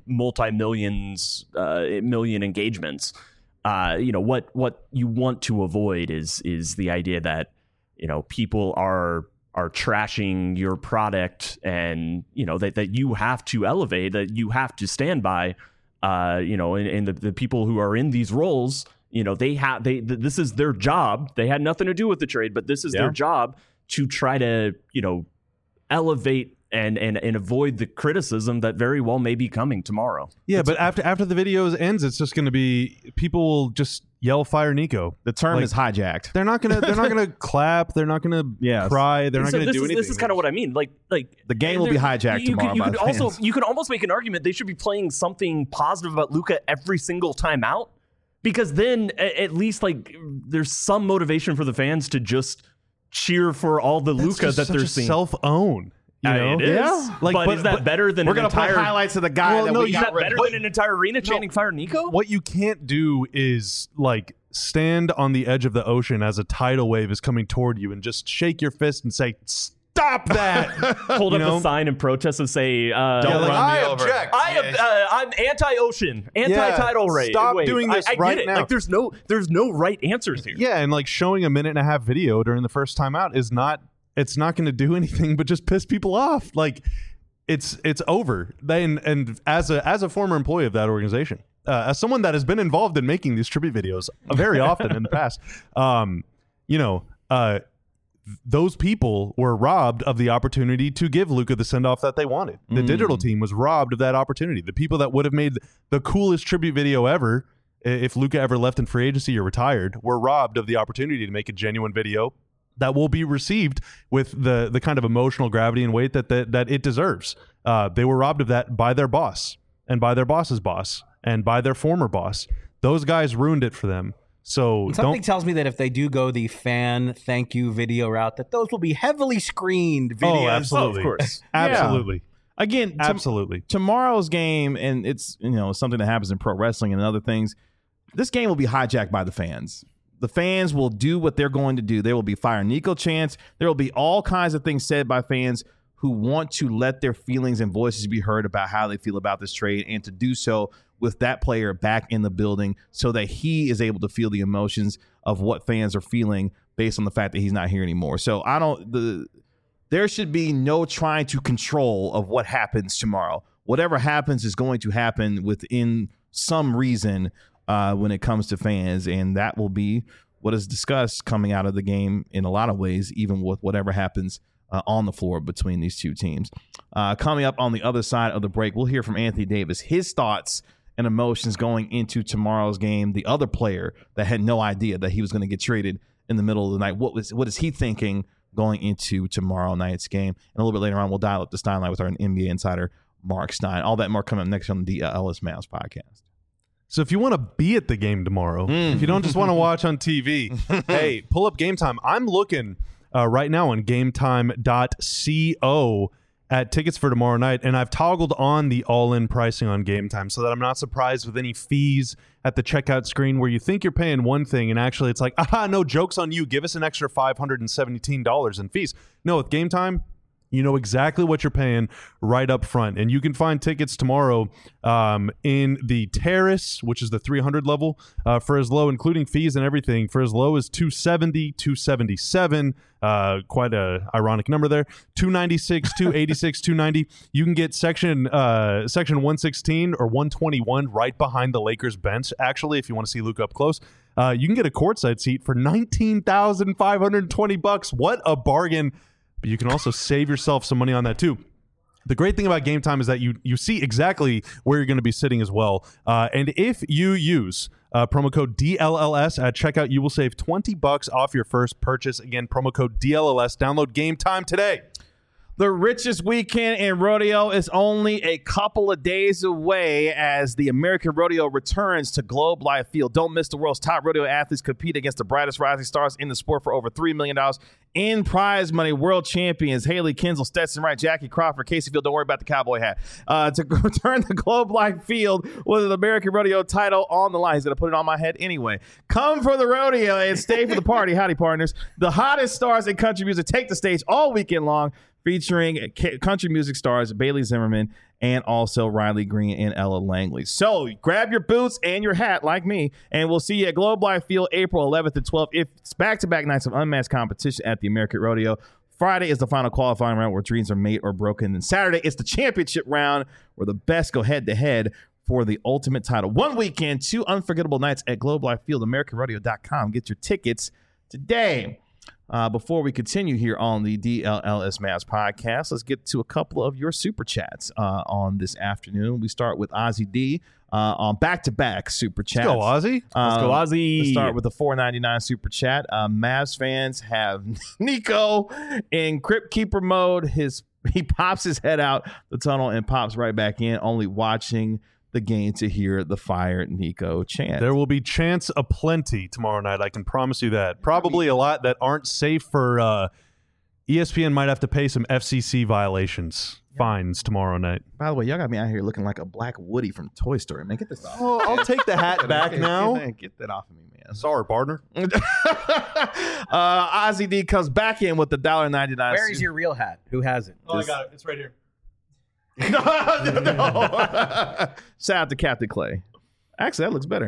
million engagements. What you want to avoid is the idea that, people are trashing your product, and, that you have to elevate, that you have to stand by, and the people who are in these roles, this is their job. They had nothing to do with the trade, but this is their job to try to, elevate and avoid the criticism that very well may be coming tomorrow. Yeah, but after the video ends, it's just going to be, people will just yell "Fire Nico." The term is hijacked. They're not gonna clap. They're not gonna cry. They're not gonna do anything. This is kind of what I mean. Like the game will be hijacked tomorrow. You could almost make an argument they should be playing something positive about Luka every single time out, because then at least there's some motivation for the fans to just cheer for all the Luka that they're seeing. Self-own. It is. Yeah. But is that better than we're going to play highlights of the guy that we got rid of? Is that better than an entire arena chanting "Fire Nico"? What you can't do is stand on the edge of the ocean as a tidal wave is coming toward you and just shake your fist and say, "Stop that!" Hold up a sign and protest and say, "Don't run me over." I'm anti-ocean, anti-tidal wave. Stop doing this right now. There's no right answers here. Yeah, and showing a 1.5-minute video during the first time out is not. It's not going to do anything but just piss people off. It's over. And as a former employee of that organization, as someone that has been involved in making these tribute videos very often in the past, those people were robbed of the opportunity to give Luka the send off that they wanted. The digital team was robbed of that opportunity. The people that would have made the coolest tribute video ever, if Luka ever left in free agency or retired, were robbed of the opportunity to make a genuine video that will be received with the kind of emotional gravity and weight that it deserves. They were robbed of that by their boss and by their boss's boss and by their former boss. Those guys ruined it for them. So something tells me that if they do go the fan thank you video route, that those will be heavily screened videos. Oh, absolutely. Of course. Absolutely. Yeah. Again, absolutely. Tomorrow's game, and it's something that happens in pro wrestling and other things, this game will be hijacked by the fans. The fans will do what they're going to do. There will be Fire Nico chants. There will be all kinds of things said by fans who want to let their feelings and voices be heard about how they feel about this trade, and to do so with that player back in the building so that he is able to feel the emotions of what fans are feeling based on the fact that he's not here anymore. So there should be no trying to control of what happens tomorrow. Whatever happens is going to happen within some reason when it comes to fans, and that will be what is discussed coming out of the game in a lot of ways, even with whatever happens on the floor between these two teams. Coming up on the other side of the break, we'll hear from Anthony Davis, his thoughts and emotions going into tomorrow's game. The other player that had no idea that he was going to get traded in the middle of the night. What is he thinking going into tomorrow night's game? And a little bit later on, we'll dial up the Stein line with our NBA insider, Mark Stein. All that more coming up next on the DLS Mavs podcast. So if you want to be at the game tomorrow, if you don't just want to watch on TV, hey, pull up Game Time. I'm looking right now on gametime.co at tickets for tomorrow night, and I've toggled on the all-in pricing on Game Time so that I'm not surprised with any fees at the checkout screen where you think you're paying one thing and actually it's like, no, joke's on you. Give us an extra $517 in fees. No, with Game Time, you know exactly what you're paying right up front. And you can find tickets tomorrow in the Terrace, which is the 300 level, for as low, including fees and everything, for as low as $270, $277. Quite a ironic number there. $296, $286, $290. You can get section 116 or 121 right behind the Lakers bench, actually, if you want to see Luka up close. You can get a courtside seat for $19,520. What a bargain. But you can also save yourself some money on that too. The great thing about Game Time is that you see exactly where you're going to be sitting as well. And if you use promo code DLLS at checkout, you will save $20 off your first purchase. Again, promo code DLLS. Download Game Time today. The richest weekend in rodeo is only a couple of days away as the American Rodeo returns to Globe Life Field. Don't miss the world's top rodeo athletes compete against the brightest rising stars in the sport for over $3 million in prize money. World champions Haley Kinsel, Stetson Wright, Jackie Crawford, Casey Field. Don't worry about the cowboy hat. To return to Globe Life Field with an American Rodeo title on the line. He's going to put it on my head anyway. Come for the rodeo and stay for the party. Howdy, partners. The hottest stars in country music take the stage all weekend long, featuring country music stars Bailey Zimmerman and also Riley Green and Ella Langley. So grab your boots and your hat like me, and we'll see you at Globe Life Field April 11th and 12th. It's back-to-back nights of unmatched competition at the American Rodeo. Friday is the final qualifying round where dreams are made or broken. And Saturday is the championship round where the best go head-to-head for the ultimate title. One weekend, 2 unforgettable nights at Globe Life Field, AmericanRodeo.com. Get your tickets today. Before we continue here on the DLLS Mavs podcast, let's get to a couple of your super chats on this afternoon. We start with Ozzy D on back-to-back super chats. Let's go, Ozzy. Let's go, Ozzy. Let's start with the $4.99 super chat. Mavs fans have Nico in Crypt Keeper mode. He pops his head out the tunnel and pops right back in, only watching the game to hear the Fire Nico chant. There will be chants aplenty tomorrow night. I can promise you that. Probably a lot that aren't safe for ESPN. Might have to pay some FCC violations, fines tomorrow night. By the way, y'all got me out here looking like a black Woody from Toy Story. Man, get this off. Oh, I'll take the hat back now. Get that off of me, man. Sorry, partner. Ozzy D comes back in with the $1.99. Where is your real hat? Who has it? Oh, I got it. It's right here. No. Shout out to Captain Clay. Actually, that looks better.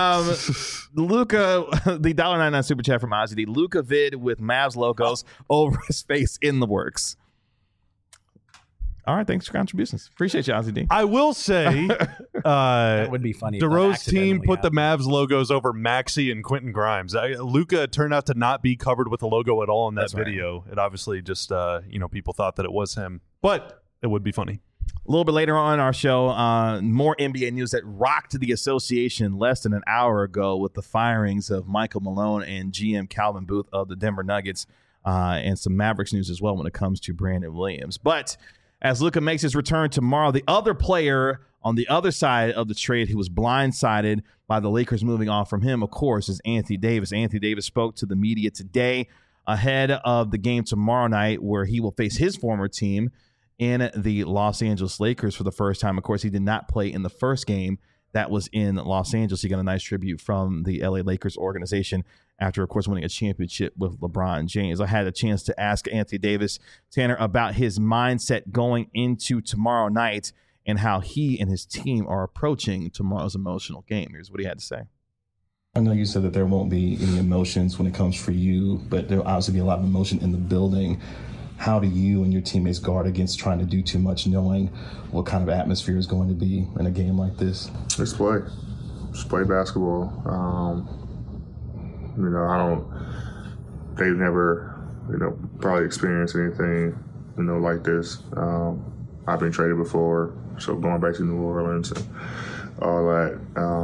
Luka, the $1.99 super chat from Ozzy D. Luka vid with Mavs logos over his face in the works. All right, thanks for contributions. Appreciate you, Ozzy D. I will say that would be funny. DeRozan's team put the Mavs logos over Maxey and Quentin Grimes. Luka turned out to not be covered with a logo at all in that video. Right. It obviously just people thought that it was him, but it would be funny. A little bit later on in our show, more NBA news that rocked the association less than an hour ago with the firings of Michael Malone and GM Calvin Booth of the Denver Nuggets, and some Mavericks news as well when it comes to Brandon Williams. But as Luka makes his return tomorrow, the other player on the other side of the trade who was blindsided by the Lakers moving on from him, of course, is Anthony Davis. Anthony Davis spoke to the media today ahead of the game tomorrow night where he will face his former team in the Los Angeles Lakers for the first time. Of course, he did not play in the first game that was in Los Angeles. He got a nice tribute from the LA Lakers organization after, of course, winning a championship with LeBron James. I had a chance to ask Anthony Davis, Tanner, about his mindset going into tomorrow night and how he and his team are approaching tomorrow's emotional game. Here's what he had to say. I know you said that there won't be any emotions when it comes for you, but there'll obviously be a lot of emotion in the building. How do you and your teammates guard against trying to do too much, knowing what kind of atmosphere is going to be in a game like this? Just play basketball. They've never, probably experienced anything, like this. I've been traded before, so going back to New Orleans and all that,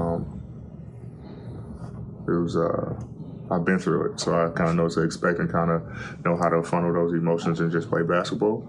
I've been through it, so I kind of know what to expect and kind of know how to funnel those emotions and just play basketball.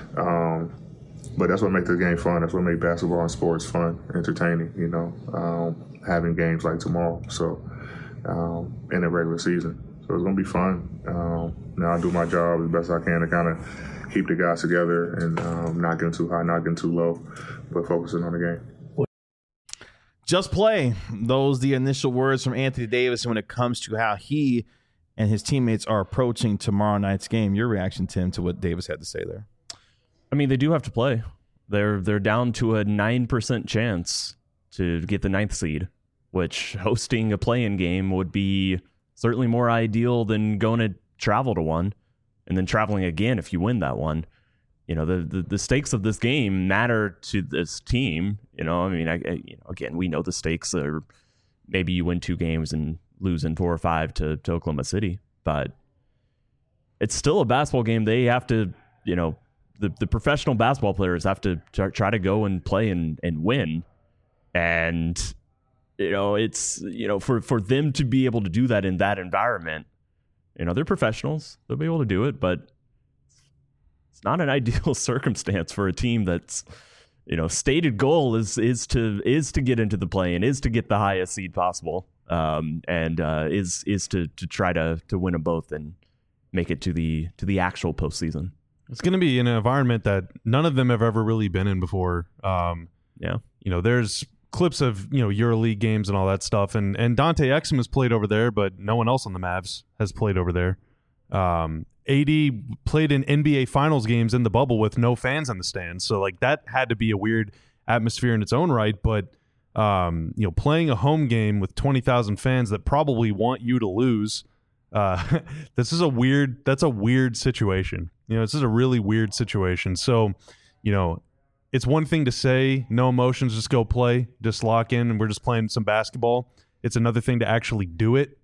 But that's what makes the game fun. That's what makes basketball and sports fun, entertaining, having games like tomorrow. So, in the regular season. So it's going to be fun. Now I do my job as best I can to kind of keep the guys together and not getting too high, not getting too low, but focusing on the game. Just play. Those the initial words from Anthony Davis when it comes to how he and his teammates are approaching tomorrow night's game. Your reaction, Tim, to what Davis had to say there? I mean, they do have to play. They're down to a 9% chance to get the 9th seed, which hosting a play-in game would be certainly more ideal than going to travel to one and then traveling again if you win that one. The stakes of this game matter to this team. Again, we know the stakes are maybe you win 2 games and lose in 4 or 5 to Oklahoma City, but it's still a basketball game. They have to, the professional basketball players have to try to go and play and win. And, it's, for them to be able to do that in that environment, they're professionals. They'll be able to do it, but it's not an ideal circumstance for a team that's, stated goal is to get into the play and is to get the highest seed possible, and is to try to win them both and make it to the actual postseason. It's going to be in an environment that none of them have ever really been in before. There's clips of EuroLeague games and all that stuff, and Dante Exum has played over there, but no one else on the Mavs has played over there. AD played in NBA Finals games in the bubble with no fans in the stands, so that had to be a weird atmosphere in its own right. But playing a home game with 20,000 fans that probably want you to lose, that's a weird situation. This is a really weird situation. So, it's one thing to say no emotions, just go play, just lock in, and we're just playing some basketball. It's another thing to actually do it.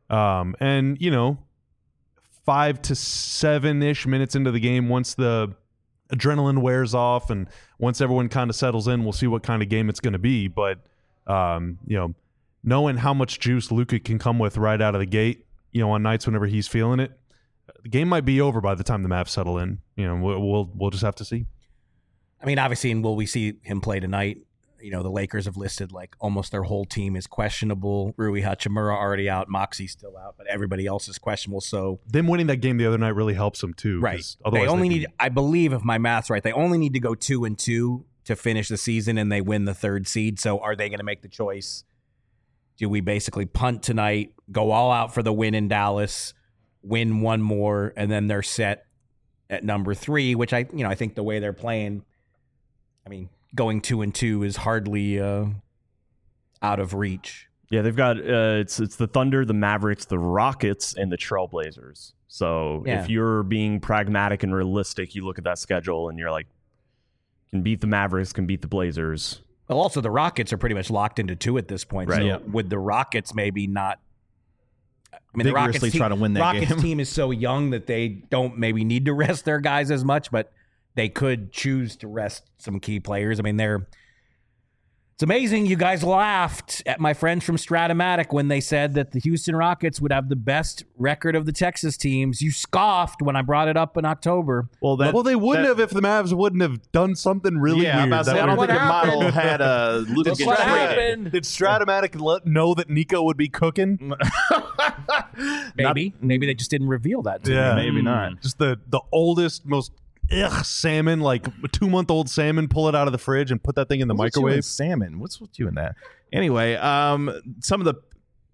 5 to 7-ish minutes into the game, once the adrenaline wears off and once everyone kind of settles in, we'll see what kind of game it's going to be. But, knowing how much juice Luka can come with right out of the gate, on nights whenever he's feeling it, the game might be over by the time the Mavs settle in. We'll just have to see. I mean, obviously, and will we see him play tonight? The Lakers have listed almost their whole team is questionable. Rui Hachimura already out, Moxie's still out, but everybody else is questionable. So them winning that game the other night really helps them too. Right. They only need, I believe, if my math's right, they only need to go 2-2 to finish the season, and they win the 3rd seed. So are they going to make the choice? Do we basically punt tonight, go all out for the win in Dallas, win one more, and then they're set at number 3, which I think the way they're playing, going 2-2 is hardly out of reach. Yeah, they've got it's the Thunder, the Mavericks, the Rockets, and the Trailblazers. So if you're being pragmatic and realistic, you look at that schedule and you're like, can beat the Mavericks, can beat the Blazers. Well, also the Rockets are pretty much locked into 2 at this point. Right. So would the Rockets maybe not? The Rockets try to win that Rockets game. Team is so young that they don't maybe need to rest their guys as much, but they could choose to rest some key players. It's amazing. You guys laughed at my friends from Stratomatic when they said that the Houston Rockets would have the best record of the Texas teams. You scoffed when I brought it up in October. Well, they wouldn't have if the Mavs wouldn't have done something really weird. I'm about to say, I don't think your model had a Luka That's what get traded. happened. Did Stratomatic know that Nico would be cooking? Maybe they just didn't reveal that to Yeah, me. Maybe not. Just the oldest, most salmon, a 2-month-old salmon, pull it out of the fridge and put that thing in the What's with you microwave. and salmon. What's with you in that? Anyway, some of the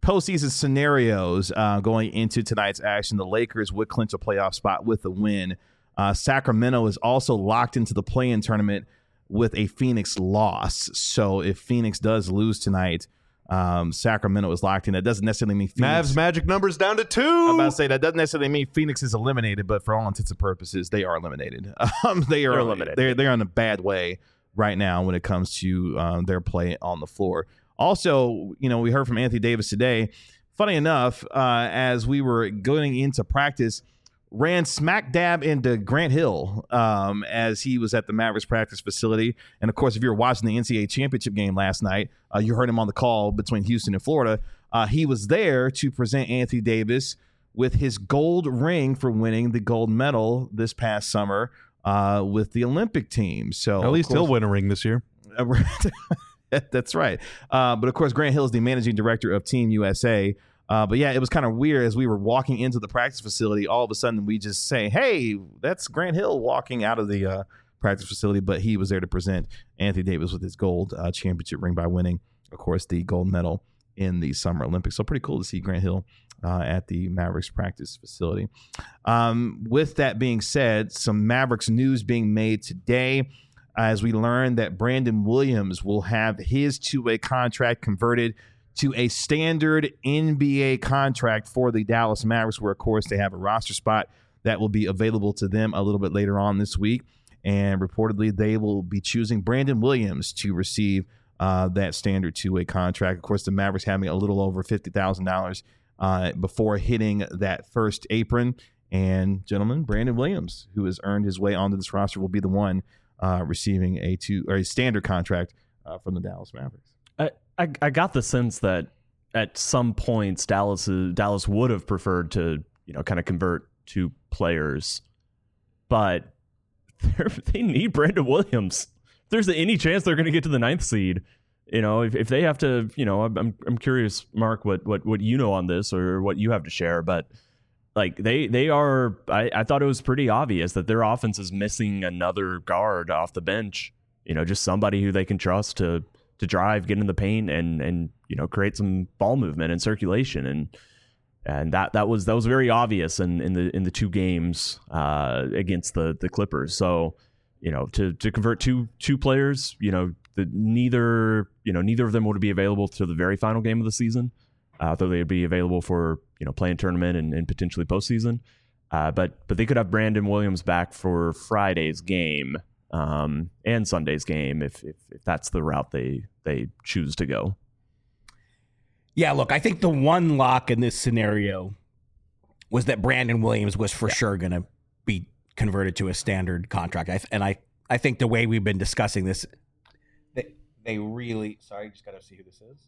postseason scenarios going into tonight's action, the Lakers would clinch a playoff spot with a win. Sacramento is also locked into the play-in tournament with a Phoenix loss. So if Phoenix does lose tonight, Sacramento is locked in. That doesn't necessarily mean Phoenix. Mavs magic numbers down to 2. I'm about to say that doesn't necessarily mean Phoenix is eliminated, but for all intents and purposes, they are eliminated. They're eliminated. They're in a bad way right now when it comes to their play on the floor. Also, we heard from Anthony Davis today. Funny enough, as we were going into practice, ran smack dab into Grant Hill as he was at the Mavericks practice facility. And, of course, if you were watching the NCAA championship game last night, you heard him on the call between Houston and Florida. He was there to present Anthony Davis with his gold ring for winning the gold medal this past summer with the Olympic team. So at least he'll win a ring this year. That's right. But, of course, Grant Hill is the managing director of Team USA. But yeah, it was kind of weird as we were walking into the practice facility. All of a sudden, we just say, "Hey, that's Grant Hill walking out of the practice facility." But he was there to present Anthony Davis with his gold championship ring by winning, of course, the gold medal in the Summer Olympics. So pretty cool to see Grant Hill at the Mavericks practice facility. With that being said, some Mavericks news being made today as we learn that Brandon Williams will have his two-way contract converted to a standard NBA contract for the Dallas Mavericks, where, of course, they have a roster spot that will be available to them a little bit later on this week. And reportedly, they will be choosing Brandon Williams to receive that standard two-way contract. Of course, the Mavericks having a little over $50,000 before hitting that first apron. And, gentlemen, Brandon Williams, who has earned his way onto this roster, will be the one receiving a standard contract from the Dallas Mavericks. I got the sense that at some points Dallas would have preferred to kind of convert two players, but they need Brandon Williams. If there's any chance they're going to get to the 9th seed, if they have to, I'm curious, Mark, what you know on this or what you have to share, but like they are. I thought it was pretty obvious that their offense is missing another guard off the bench. Just somebody who they can trust to drive, get in the paint, and create some ball movement and circulation, and that was very obvious in the two games against the Clippers. So to convert two players, neither of them would be available to the very final game of the season, though they'd be available for play-in tournament and potentially postseason. But they could have Brandon Williams back for Friday's game. And Sunday's game if that's the route they choose to go. Yeah, look, I think the one lock in this scenario was that Brandon Williams was for sure going to be converted to a standard contract. I think the way we've been discussing this, they really... Sorry, just got to see who this is.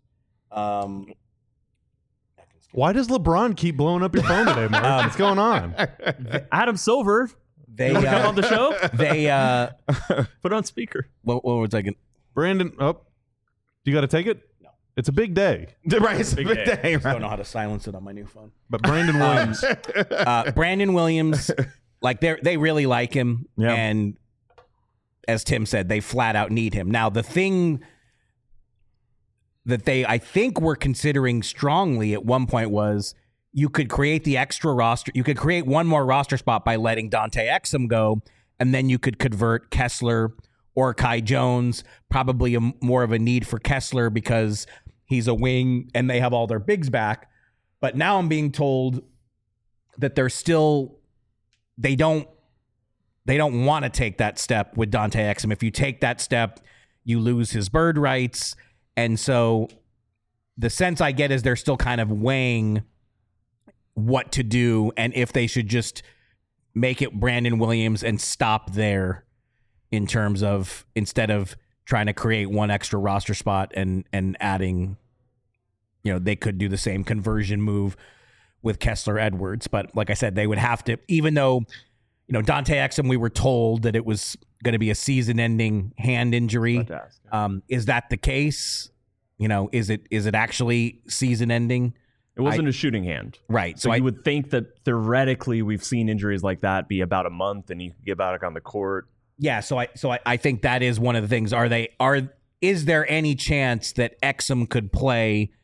Why does LeBron keep blowing up your phone today, Mark? What's going on? Adam Silver... They come on the show. They put on speaker. What was I going? Brandon, you got to take it. No, It's a big day. Right, it's a big day. I don't know how to silence it on my new phone. But Brandon Williams. Brandon Williams, like they really like him. Yeah. And as Tim said, they flat out need him. Now, the thing that they, I think, were considering strongly at one point was you could create the extra roster. You could create one more roster spot by letting Dante Exum go, and then you could convert Kessler or Kai Jones. Probably more of a need for Kessler because he's a wing and they have all their bigs back. But now I'm being told that they're still, they don't want to take that step with Dante Exum. If you take that step, you lose his bird rights. And so the sense I get is they're still kind of weighing what to do and if they should just make it Brandon Williams and stop there in terms of instead of trying to create one extra roster spot and adding, you know, they could do the same conversion move with Kessler Edwards. But like I said, they would have to, even though, you know, Dante Exum, we were told that it was going to be a season-ending hand injury. Is that the case? You know, is it actually season-ending? It wasn't a shooting hand. Right. So you would think that theoretically we've seen injuries like that be about a month and you can get back on the court. Yeah, so I think that is one of the things. Is there any chance that Exum could play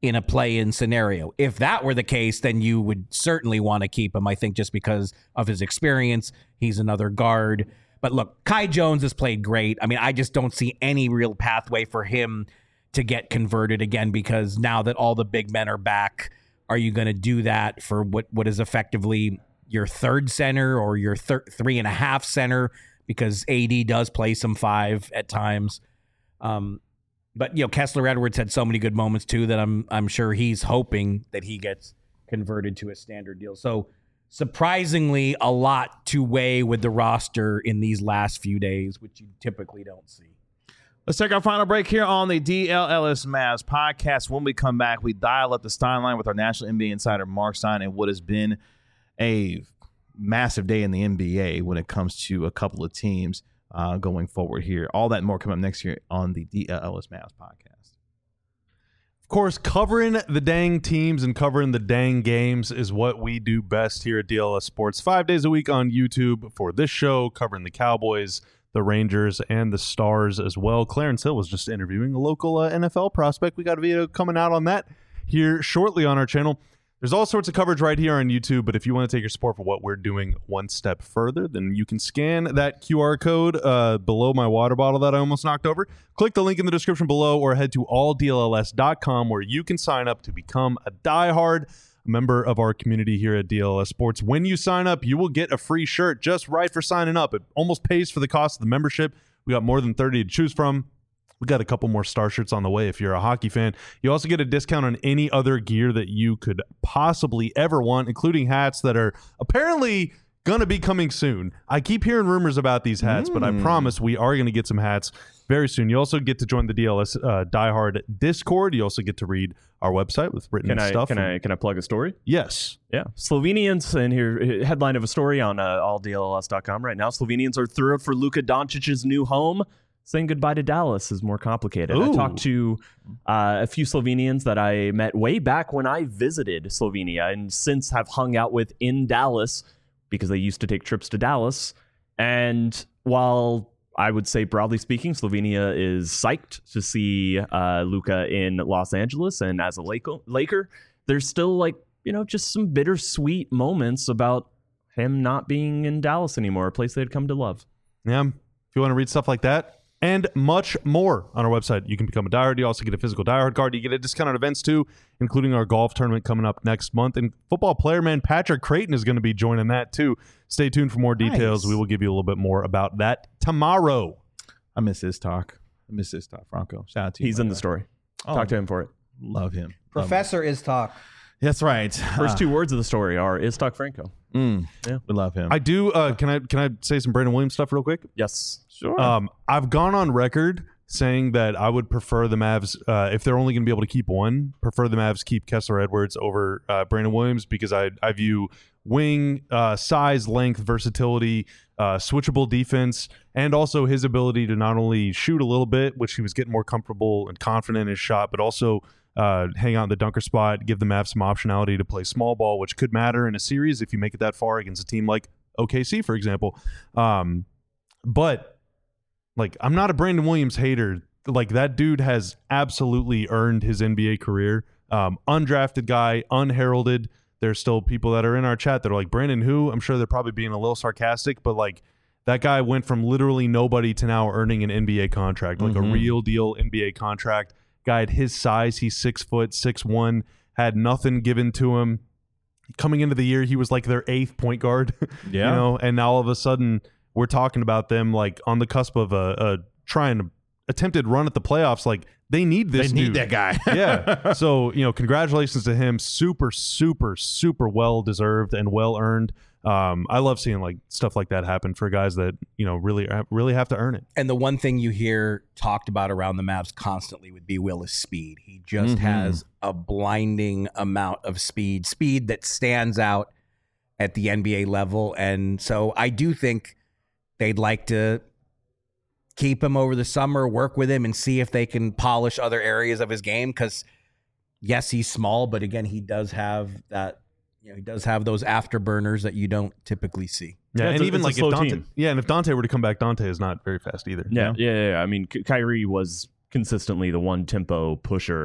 in a play-in scenario. If that were the case, then you would certainly want to keep him, I think, just because of his experience. He's another guard. But look, Kai Jones has played great. I mean, I just don't see any real pathway for him to get converted again, because now that all the big men are back, are you going to do that for what is effectively your third center or your 3.5 center? Because AD does play some 5 at times. But, Kessler Edwards had so many good moments too that I'm sure he's hoping that he gets converted to a standard deal. So surprisingly, a lot to weigh with the roster in these last few days, which you typically don't see. Let's take our final break here on the DLLS Mavs podcast. When we come back, we dial up the Stein line with our national NBA insider, Mark Stein, and what has been a massive day in the NBA when it comes to a couple of teams going forward here. All that and more coming up next year on the DLLS Mavs podcast. Of course, covering the dang teams and covering the dang games is what we do best here at DLS Sports. 5 days a week on YouTube for this show, covering the Cowboys, the Rangers, and the Stars as well. Clarence Hill was just interviewing a local NFL prospect. We got a video coming out on that here shortly on our channel. There's all sorts of coverage right here on YouTube, but if you want to take your support for what we're doing one step further, then you can scan that QR code below my water bottle that I almost knocked over. Click the link in the description below or head to alldlls.com where you can sign up to become a diehard member of our community here at DLS Sports. When you sign up, you will get a free shirt just right for signing up. It almost pays for the cost of the membership. We got more than 30 to choose from. We got a couple more Star shirts on the way if you're a hockey fan. You also get a discount on any other gear that you could possibly ever want, including hats that are apparently going to be coming soon. I keep hearing rumors about these hats, but I promise we are going to get some hats very soon. You also get to join the DLS Diehard Discord. You also get to read our website with written stuff. Can I plug a story? Yes. Yeah. Slovenians, and here, headline of a story on alldlls.com right now. Slovenians are thrilled for Luka Doncic's new home. Saying goodbye to Dallas is more complicated. Ooh. I talked to a few Slovenians that I met way back when I visited Slovenia and since have hung out with in Dallas because they used to take trips to Dallas. And while I would say, broadly speaking, Slovenia is psyched to see Luka in Los Angeles and as a Laker, there's still just some bittersweet moments about him not being in Dallas anymore, a place they'd come to love. Yeah. If you want to read stuff like that, and much more on our website. You can become a diehard. You also get a physical diehard card. You get a discount on events too, including our golf tournament coming up next month. And football player man Patrick Creighton is going to be joining that too. Stay tuned for more details. Nice. We will give you a little bit more about that tomorrow. I miss his talk. Franco. Shout out to you. He's in the story. Talk to him for it. Love him. Professor Iztok. That's right. First 2 words of the story are Iztok Franco. Yeah, we love him. I do. Can I say some Brandon Williams stuff real quick? Yes. Sure. I've gone on record saying that I would prefer the Mavs, if they're only going to be able to keep one, prefer the Mavs keep Kessler Edwards over Brandon Williams because I view wing, size, length, versatility, switchable defense, and also his ability to not only shoot a little bit, which he was getting more comfortable and confident in his shot, but also hang out in the dunker spot, give the Mavs some optionality to play small ball, which could matter in a series if you make it that far against a team like OKC, for example. But I'm not a Brandon Williams hater. That dude has absolutely earned his NBA career. Undrafted guy, unheralded. There's still people that are in our chat that are like, Brandon who? I'm sure they're probably being a little sarcastic, but that guy went from literally nobody to now earning an NBA contract, a real deal NBA contract. Guy at his size, he's 6 foot, 6'1", had nothing given to him. Coming into the year, he was their 8th point guard. Yeah. And now all of a sudden we're talking about them on the cusp of a attempted run at the playoffs. They need this dude. They need that guy. Yeah. So, congratulations to him. Super, super, super well deserved and well earned. I love seeing stuff like that happen for guys that, really have to earn it. And the one thing you hear talked about around the Mavs constantly would be Willis' speed. He just has a blinding amount of speed that stands out at the NBA level. And so I do think they'd like to keep him over the summer, work with him, and see if they can polish other areas of his game. Because, yes, he's small, but again, he does have that. He does have those afterburners that you don't typically see. Yeah, and even if Dante, team. Yeah, and if Dante were to come back, Dante is not very fast either. Yeah. I mean, Kyrie was consistently the one tempo pusher,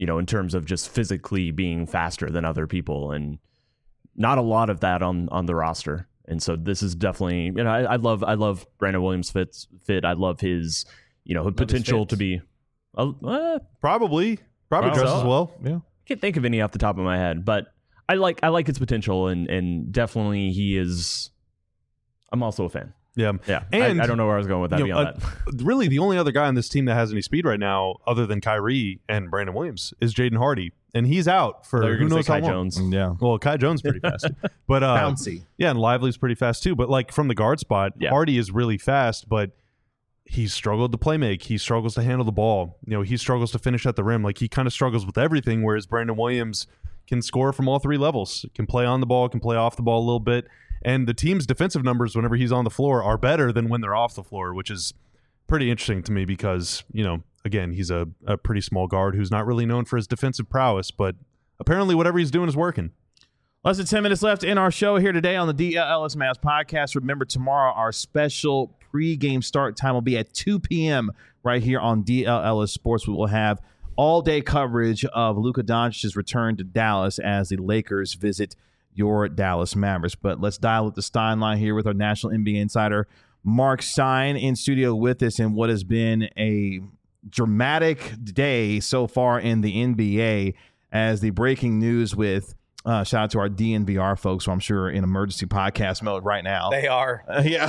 in terms of just physically being faster than other people, and not a lot of that on the roster. And so this is definitely, I love Brandon Williams fit. I love his, potential to be probably dresses well. Yeah. I can't think of any off the top of my head, but I like his potential, and definitely he is. I'm also a fan. Yeah. And I don't know where I was going with that beyond that. Really, the only other guy on this team that has any speed right now, other than Kyrie and Brandon Williams, is Jaden Hardy, and he's out for who knows how long. Jones. Yeah. Well, Kai Jones pretty fast, but bouncy. Yeah, and Lively's pretty fast too. But like from the guard spot, Hardy is really fast, but he struggled to play make. He struggles to handle the ball. He struggles to finish at the rim. Like he kind of struggles with everything. Whereas Brandon Williams can score from all three levels. Can play on the ball. Can play off the ball a little bit. And the team's defensive numbers whenever he's on the floor are better than when they're off the floor, which is pretty interesting to me because, again, he's a pretty small guard who's not really known for his defensive prowess, but apparently whatever he's doing is working. Less than 10 minutes left in our show here today on the DLLS Mavs podcast. Remember, tomorrow our special pregame start time will be at 2 p.m. right here on DLLS Sports. We will have all-day coverage of Luka Doncic's return to Dallas as the Lakers visit your Dallas Mavericks. But let's dial up the Stein line here with our national NBA insider, Mark Stein, in studio with us in what has been a dramatic day so far in the NBA as the breaking news with shout out to our DNVR folks who I'm sure are in emergency podcast mode right now. They are.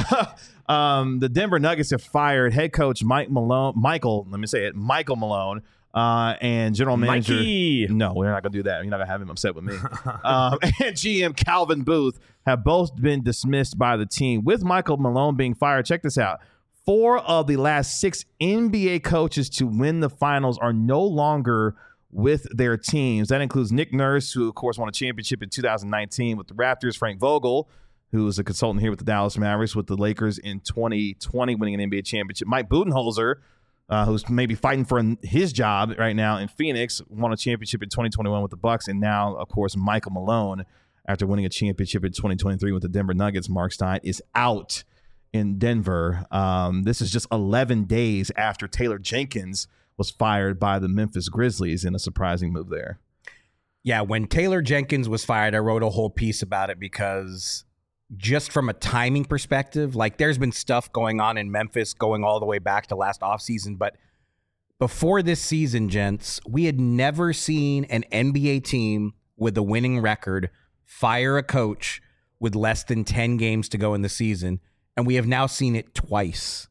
The Denver Nuggets have fired head coach Michael Malone. And general manager. Mikey. No, we're not going to do that. You're not going to have him upset with me. And GM Calvin Booth have both been dismissed by the team. With Michael Malone being fired, check this out. 4 of the last 6 NBA coaches to win the finals are no longer with their teams. That includes Nick Nurse, who, of course, won a championship in 2019 with the Raptors, Frank Vogel, who was a consultant here with the Dallas Mavericks, with the Lakers in 2020, winning an NBA championship. Mike Budenholzer, who's maybe fighting for his job right now in Phoenix, won a championship in 2021 with the Bucks, and now, of course, Michael Malone, after winning a championship in 2023 with the Denver Nuggets, Mark Stein, is out in Denver. This is just 11 days after Taylor Jenkins was fired by the Memphis Grizzlies in a surprising move there. Yeah, when Taylor Jenkins was fired, I wrote a whole piece about it because just from a timing perspective, like there's been stuff going on in Memphis going all the way back to last offseason. But before this season, gents, we had never seen an NBA team with a winning record fire a coach with less than 10 games to go in the season. And we have now seen it twice.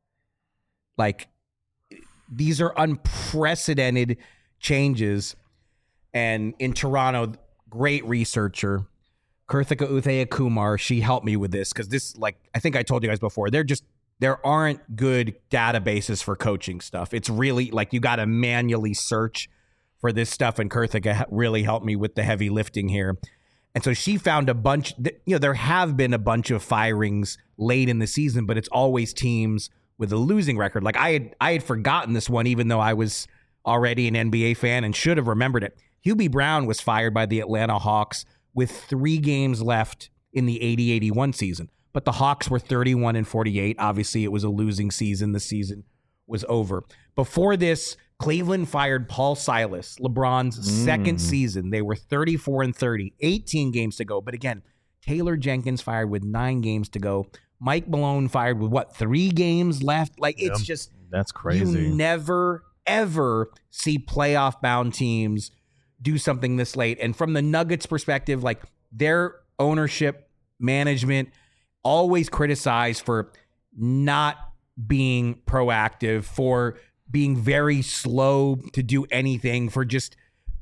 Like, these are unprecedented changes. And in Toronto, great researcher, Karthika Uthaya Kumar, she helped me with this because this, like, I think I told you guys before, there aren't good databases for coaching stuff. It's really like you got to manually search for this stuff, and Karthika really helped me with the heavy lifting here. And so she found a bunch, there have been a bunch of firings late in the season, but it's always teams with a losing record. Like I had forgotten this one, even though I was already an NBA fan and should have remembered it. Hubie Brown was fired by the Atlanta Hawks with 3 games left in the 80-81 season. But the Hawks were 31-48. Obviously, it was a losing season. The season was over. Before this, Cleveland fired Paul Silas, LeBron's second season. They were 34-30, 18 games to go. But again, Taylor Jenkins fired with 9 games to go. Mike Malone fired with, 3 games left? Like, it's just... That's crazy. You never, ever see playoff-bound teams do something this late. And from the Nuggets perspective, like, their ownership, management, always criticized for not being proactive, for being very slow to do anything, for just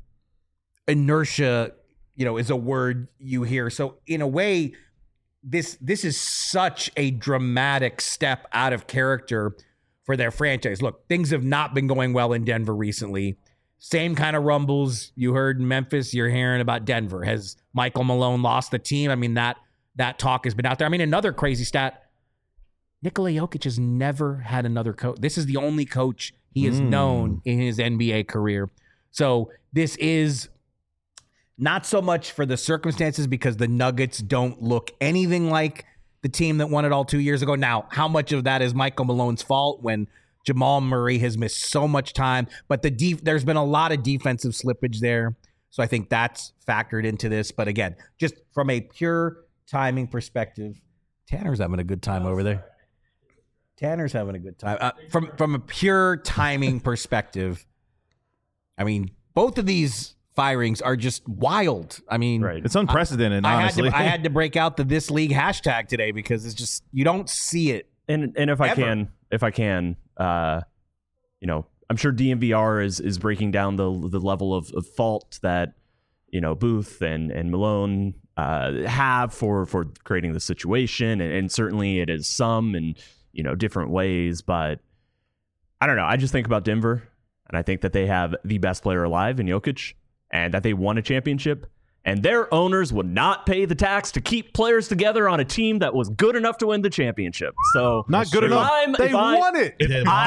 inertia, is a word you hear. So in a way, this is such a dramatic step out of character for their franchise. Look, things have not been going well in Denver recently. Same kind of rumbles you heard in Memphis, you're hearing about Denver. Has Michael Malone lost the team? I mean, that talk has been out there. I mean, another crazy stat, Nikola Jokic has never had another coach. This is the only coach he has known in his NBA career. So this is not so much for the circumstances because the Nuggets don't look anything like the team that won it all 2 years ago. Now, how much of that is Michael Malone's fault when Jamal Murray has missed so much time, but there's been a lot of defensive slippage there. So I think that's factored into this. But again, just from a pure timing perspective, Tanner's having a good time over there. Tanner's having a good time. From a pure timing perspective, I mean, both of these firings are just wild. I mean, it's unprecedented, honestly. I had to break out the This League hashtag today because it's just, you don't see it. And if I can, you know, I'm sure DNVR is breaking down the level of fault that, you know, Booth and Malone have for creating the situation, and certainly it is some in, you know, different ways. But I don't know. I just think about Denver, and I think that they have the best player alive in Jokic, and that they won a championship. And their owners would not pay the tax to keep players together on a team that was good enough to win the championship. So not good enough. They won it.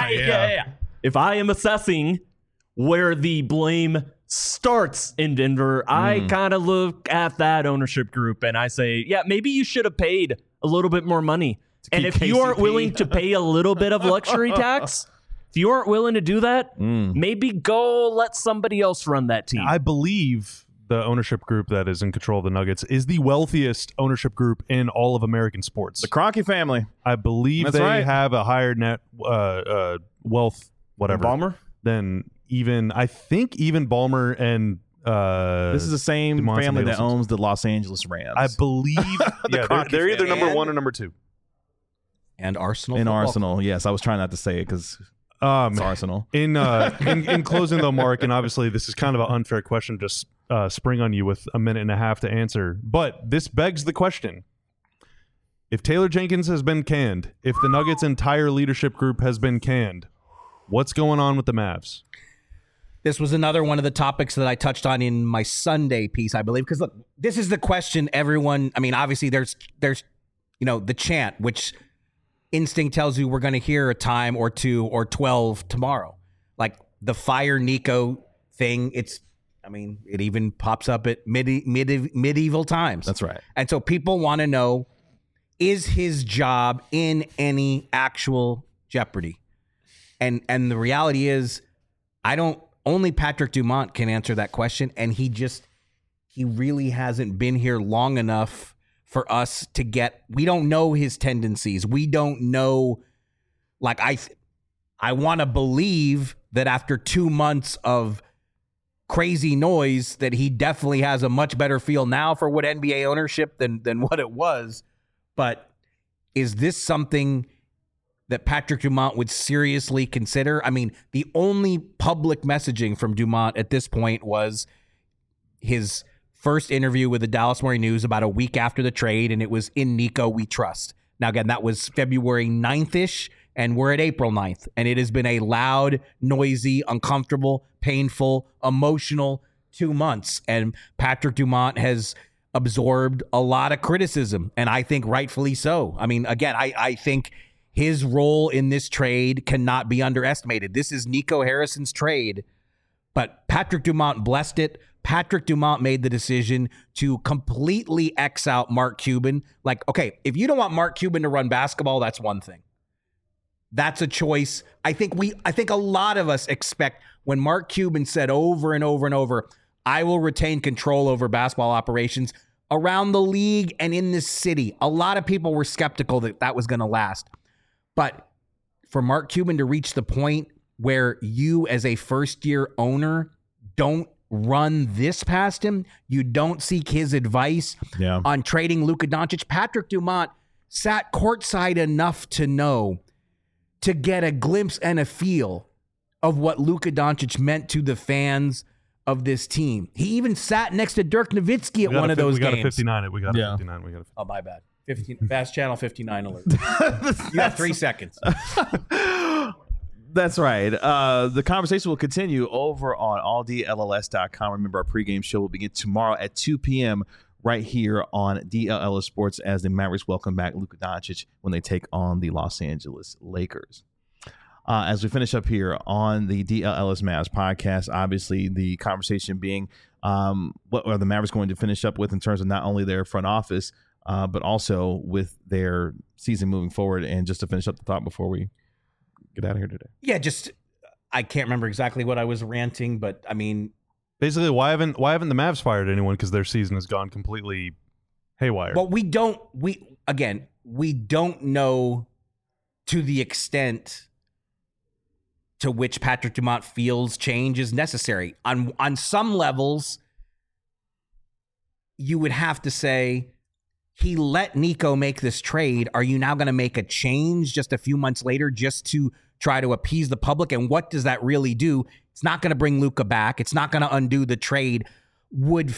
If I am assessing where the blame starts in Denver, I kind of look at that ownership group and I say, yeah, maybe you should have paid a little bit more money. And if you aren't willing to pay a little bit of luxury tax, if you aren't willing to do that, maybe go let somebody else run that team. I believe the ownership group that is in control of the Nuggets is the wealthiest ownership group in all of American sports. The Kroenke family. I believe they have a higher net wealth, whatever, Ballmer? than even, I think even Ballmer and this is the same family that owns the Los Angeles Rams. I believe they're either number one or number two. And Arsenal. In Arsenal, yes. I was trying not to say it because it's Arsenal. In closing though, Mark, and obviously this is kind of an unfair question, just spring on you with a minute and a half to answer. But this begs the question. If Taylor Jenkins has been canned, if the Nuggets' entire leadership group has been canned, what's going on with the Mavs? This was another one of the topics that I touched on in my Sunday piece, I believe. Because look, this is the question everyone, I mean, obviously there's you know, the chant, which instinct tells you we're going to hear a time or two or 12 tomorrow. Like the fire Nico thing, it even pops up at medieval times. That's right. And so people want to know, is his job in any actual jeopardy? And the reality is, only Patrick Dumont can answer that question. And he really hasn't been here long enough for us to get, we don't know his tendencies. We don't know, like, I want to believe that after 2 months of crazy noise that he definitely has a much better feel now for what NBA ownership than what it was. But is this something that Patrick Dumont would seriously consider? I mean, the only public messaging from Dumont at this point was his first interview with the Dallas Morning News about a week after the trade, and it was "In Nico We Trust." Now, again, that was February 9th-ish, and we're at April 9th, and it has been a loud, noisy, uncomfortable, painful, emotional 2 months, and Patrick Dumont has absorbed a lot of criticism, and I think rightfully so. I mean, again, I think his role in this trade cannot be underestimated. This is Nico Harrison's trade, but Patrick Dumont blessed it. Patrick Dumont made the decision to completely X out Mark Cuban. Like, okay, if you don't want Mark Cuban to run basketball, that's one thing. That's a choice. I think a lot of us expect, when Mark Cuban said over and over and over, I will retain control over basketball operations around the league and in this city, a lot of people were skeptical that was going to last. But for Mark Cuban to reach the point where you as a first-year owner don't run this past him, you don't seek his advice on trading Luka Doncic, Patrick Dumont sat courtside enough to know, to get a glimpse and a feel of what Luka Doncic meant to the fans of this team. He even sat next to Dirk Nowitzki at one of those games. We got a 59. We got a 59. Oh, my bad. 15, Fast Channel 59 alert. You have 3 seconds. That's right. The conversation will continue over on alldlls.com. Remember, our pregame show will begin tomorrow at 2 p.m. right here on DLLS Sports as the Mavericks welcome back Luka Doncic when they take on the Los Angeles Lakers. As we finish up here on the DLLS Mavs podcast, obviously the conversation being what are the Mavericks going to finish up with in terms of not only their front office, but also with their season moving forward. And just to finish up the thought before we get out of here today. Yeah, just I can't remember exactly what I was ranting, but I mean, basically, why haven't the Mavs fired anyone? Because their season has gone completely haywire. Well, we don't know to the extent to which Patrick Dumont feels change is necessary. On some levels, you would have to say, he let Nico make this trade. Are you now going to make a change just a few months later just to try to appease the public? And what does that really do? It's not going to bring Luka back. It's not going to undo the trade. Would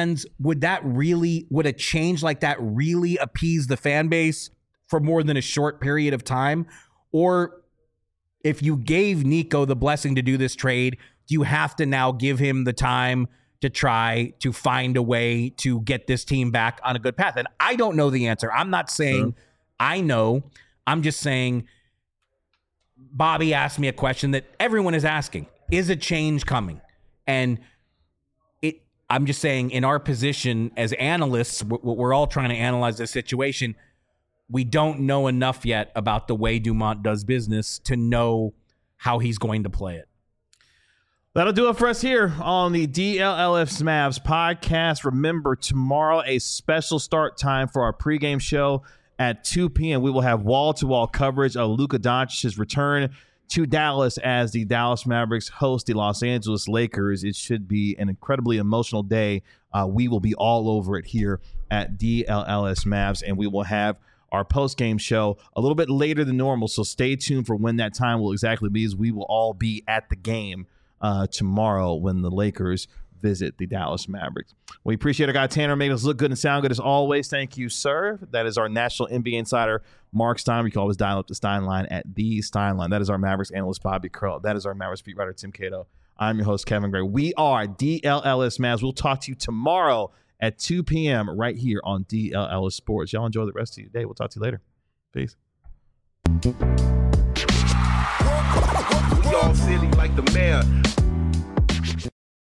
a change like that really appease the fan base for more than a short period of time? Or if you gave Nico the blessing to do this trade, do you have to now give him the time to try to find a way to get this team back on a good path? And I don't know the answer. I'm not saying I know. I'm just saying Bobby asked me a question that everyone is asking. Is a change coming? And I'm just saying, in our position as analysts, we're all trying to analyze this situation. We don't know enough yet about the way Dumont does business to know how he's going to play it. That'll do it for us here on the DLLS Mavs podcast. Remember, tomorrow, a special start time for our pregame show at 2 p.m. We will have wall-to-wall coverage of Luka Doncic's return to Dallas as the Dallas Mavericks host the Los Angeles Lakers. It should be an incredibly emotional day. We will be all over it here at DLLS Mavs, and we will have our post-game show a little bit later than normal, so stay tuned for when that time will exactly be, as we will all be at the game tomorrow when the Lakers visit the Dallas Mavericks. We appreciate our guy Tanner making us look good and sound good as always. Thank you, sir. That is our national NBA insider, Mark Stein. You can always dial up the Stein line at the Stein line. That is our Mavericks analyst, Bobby Curl. That is our Mavericks beat writer, Tim Cato. I'm your host, Kevin Gray. We are DLLS Mavs. We'll talk to you tomorrow at 2 p.m. right here on DLLS Sports. Y'all enjoy the rest of your day. We'll talk to you later. Peace. We all silly like the mayor.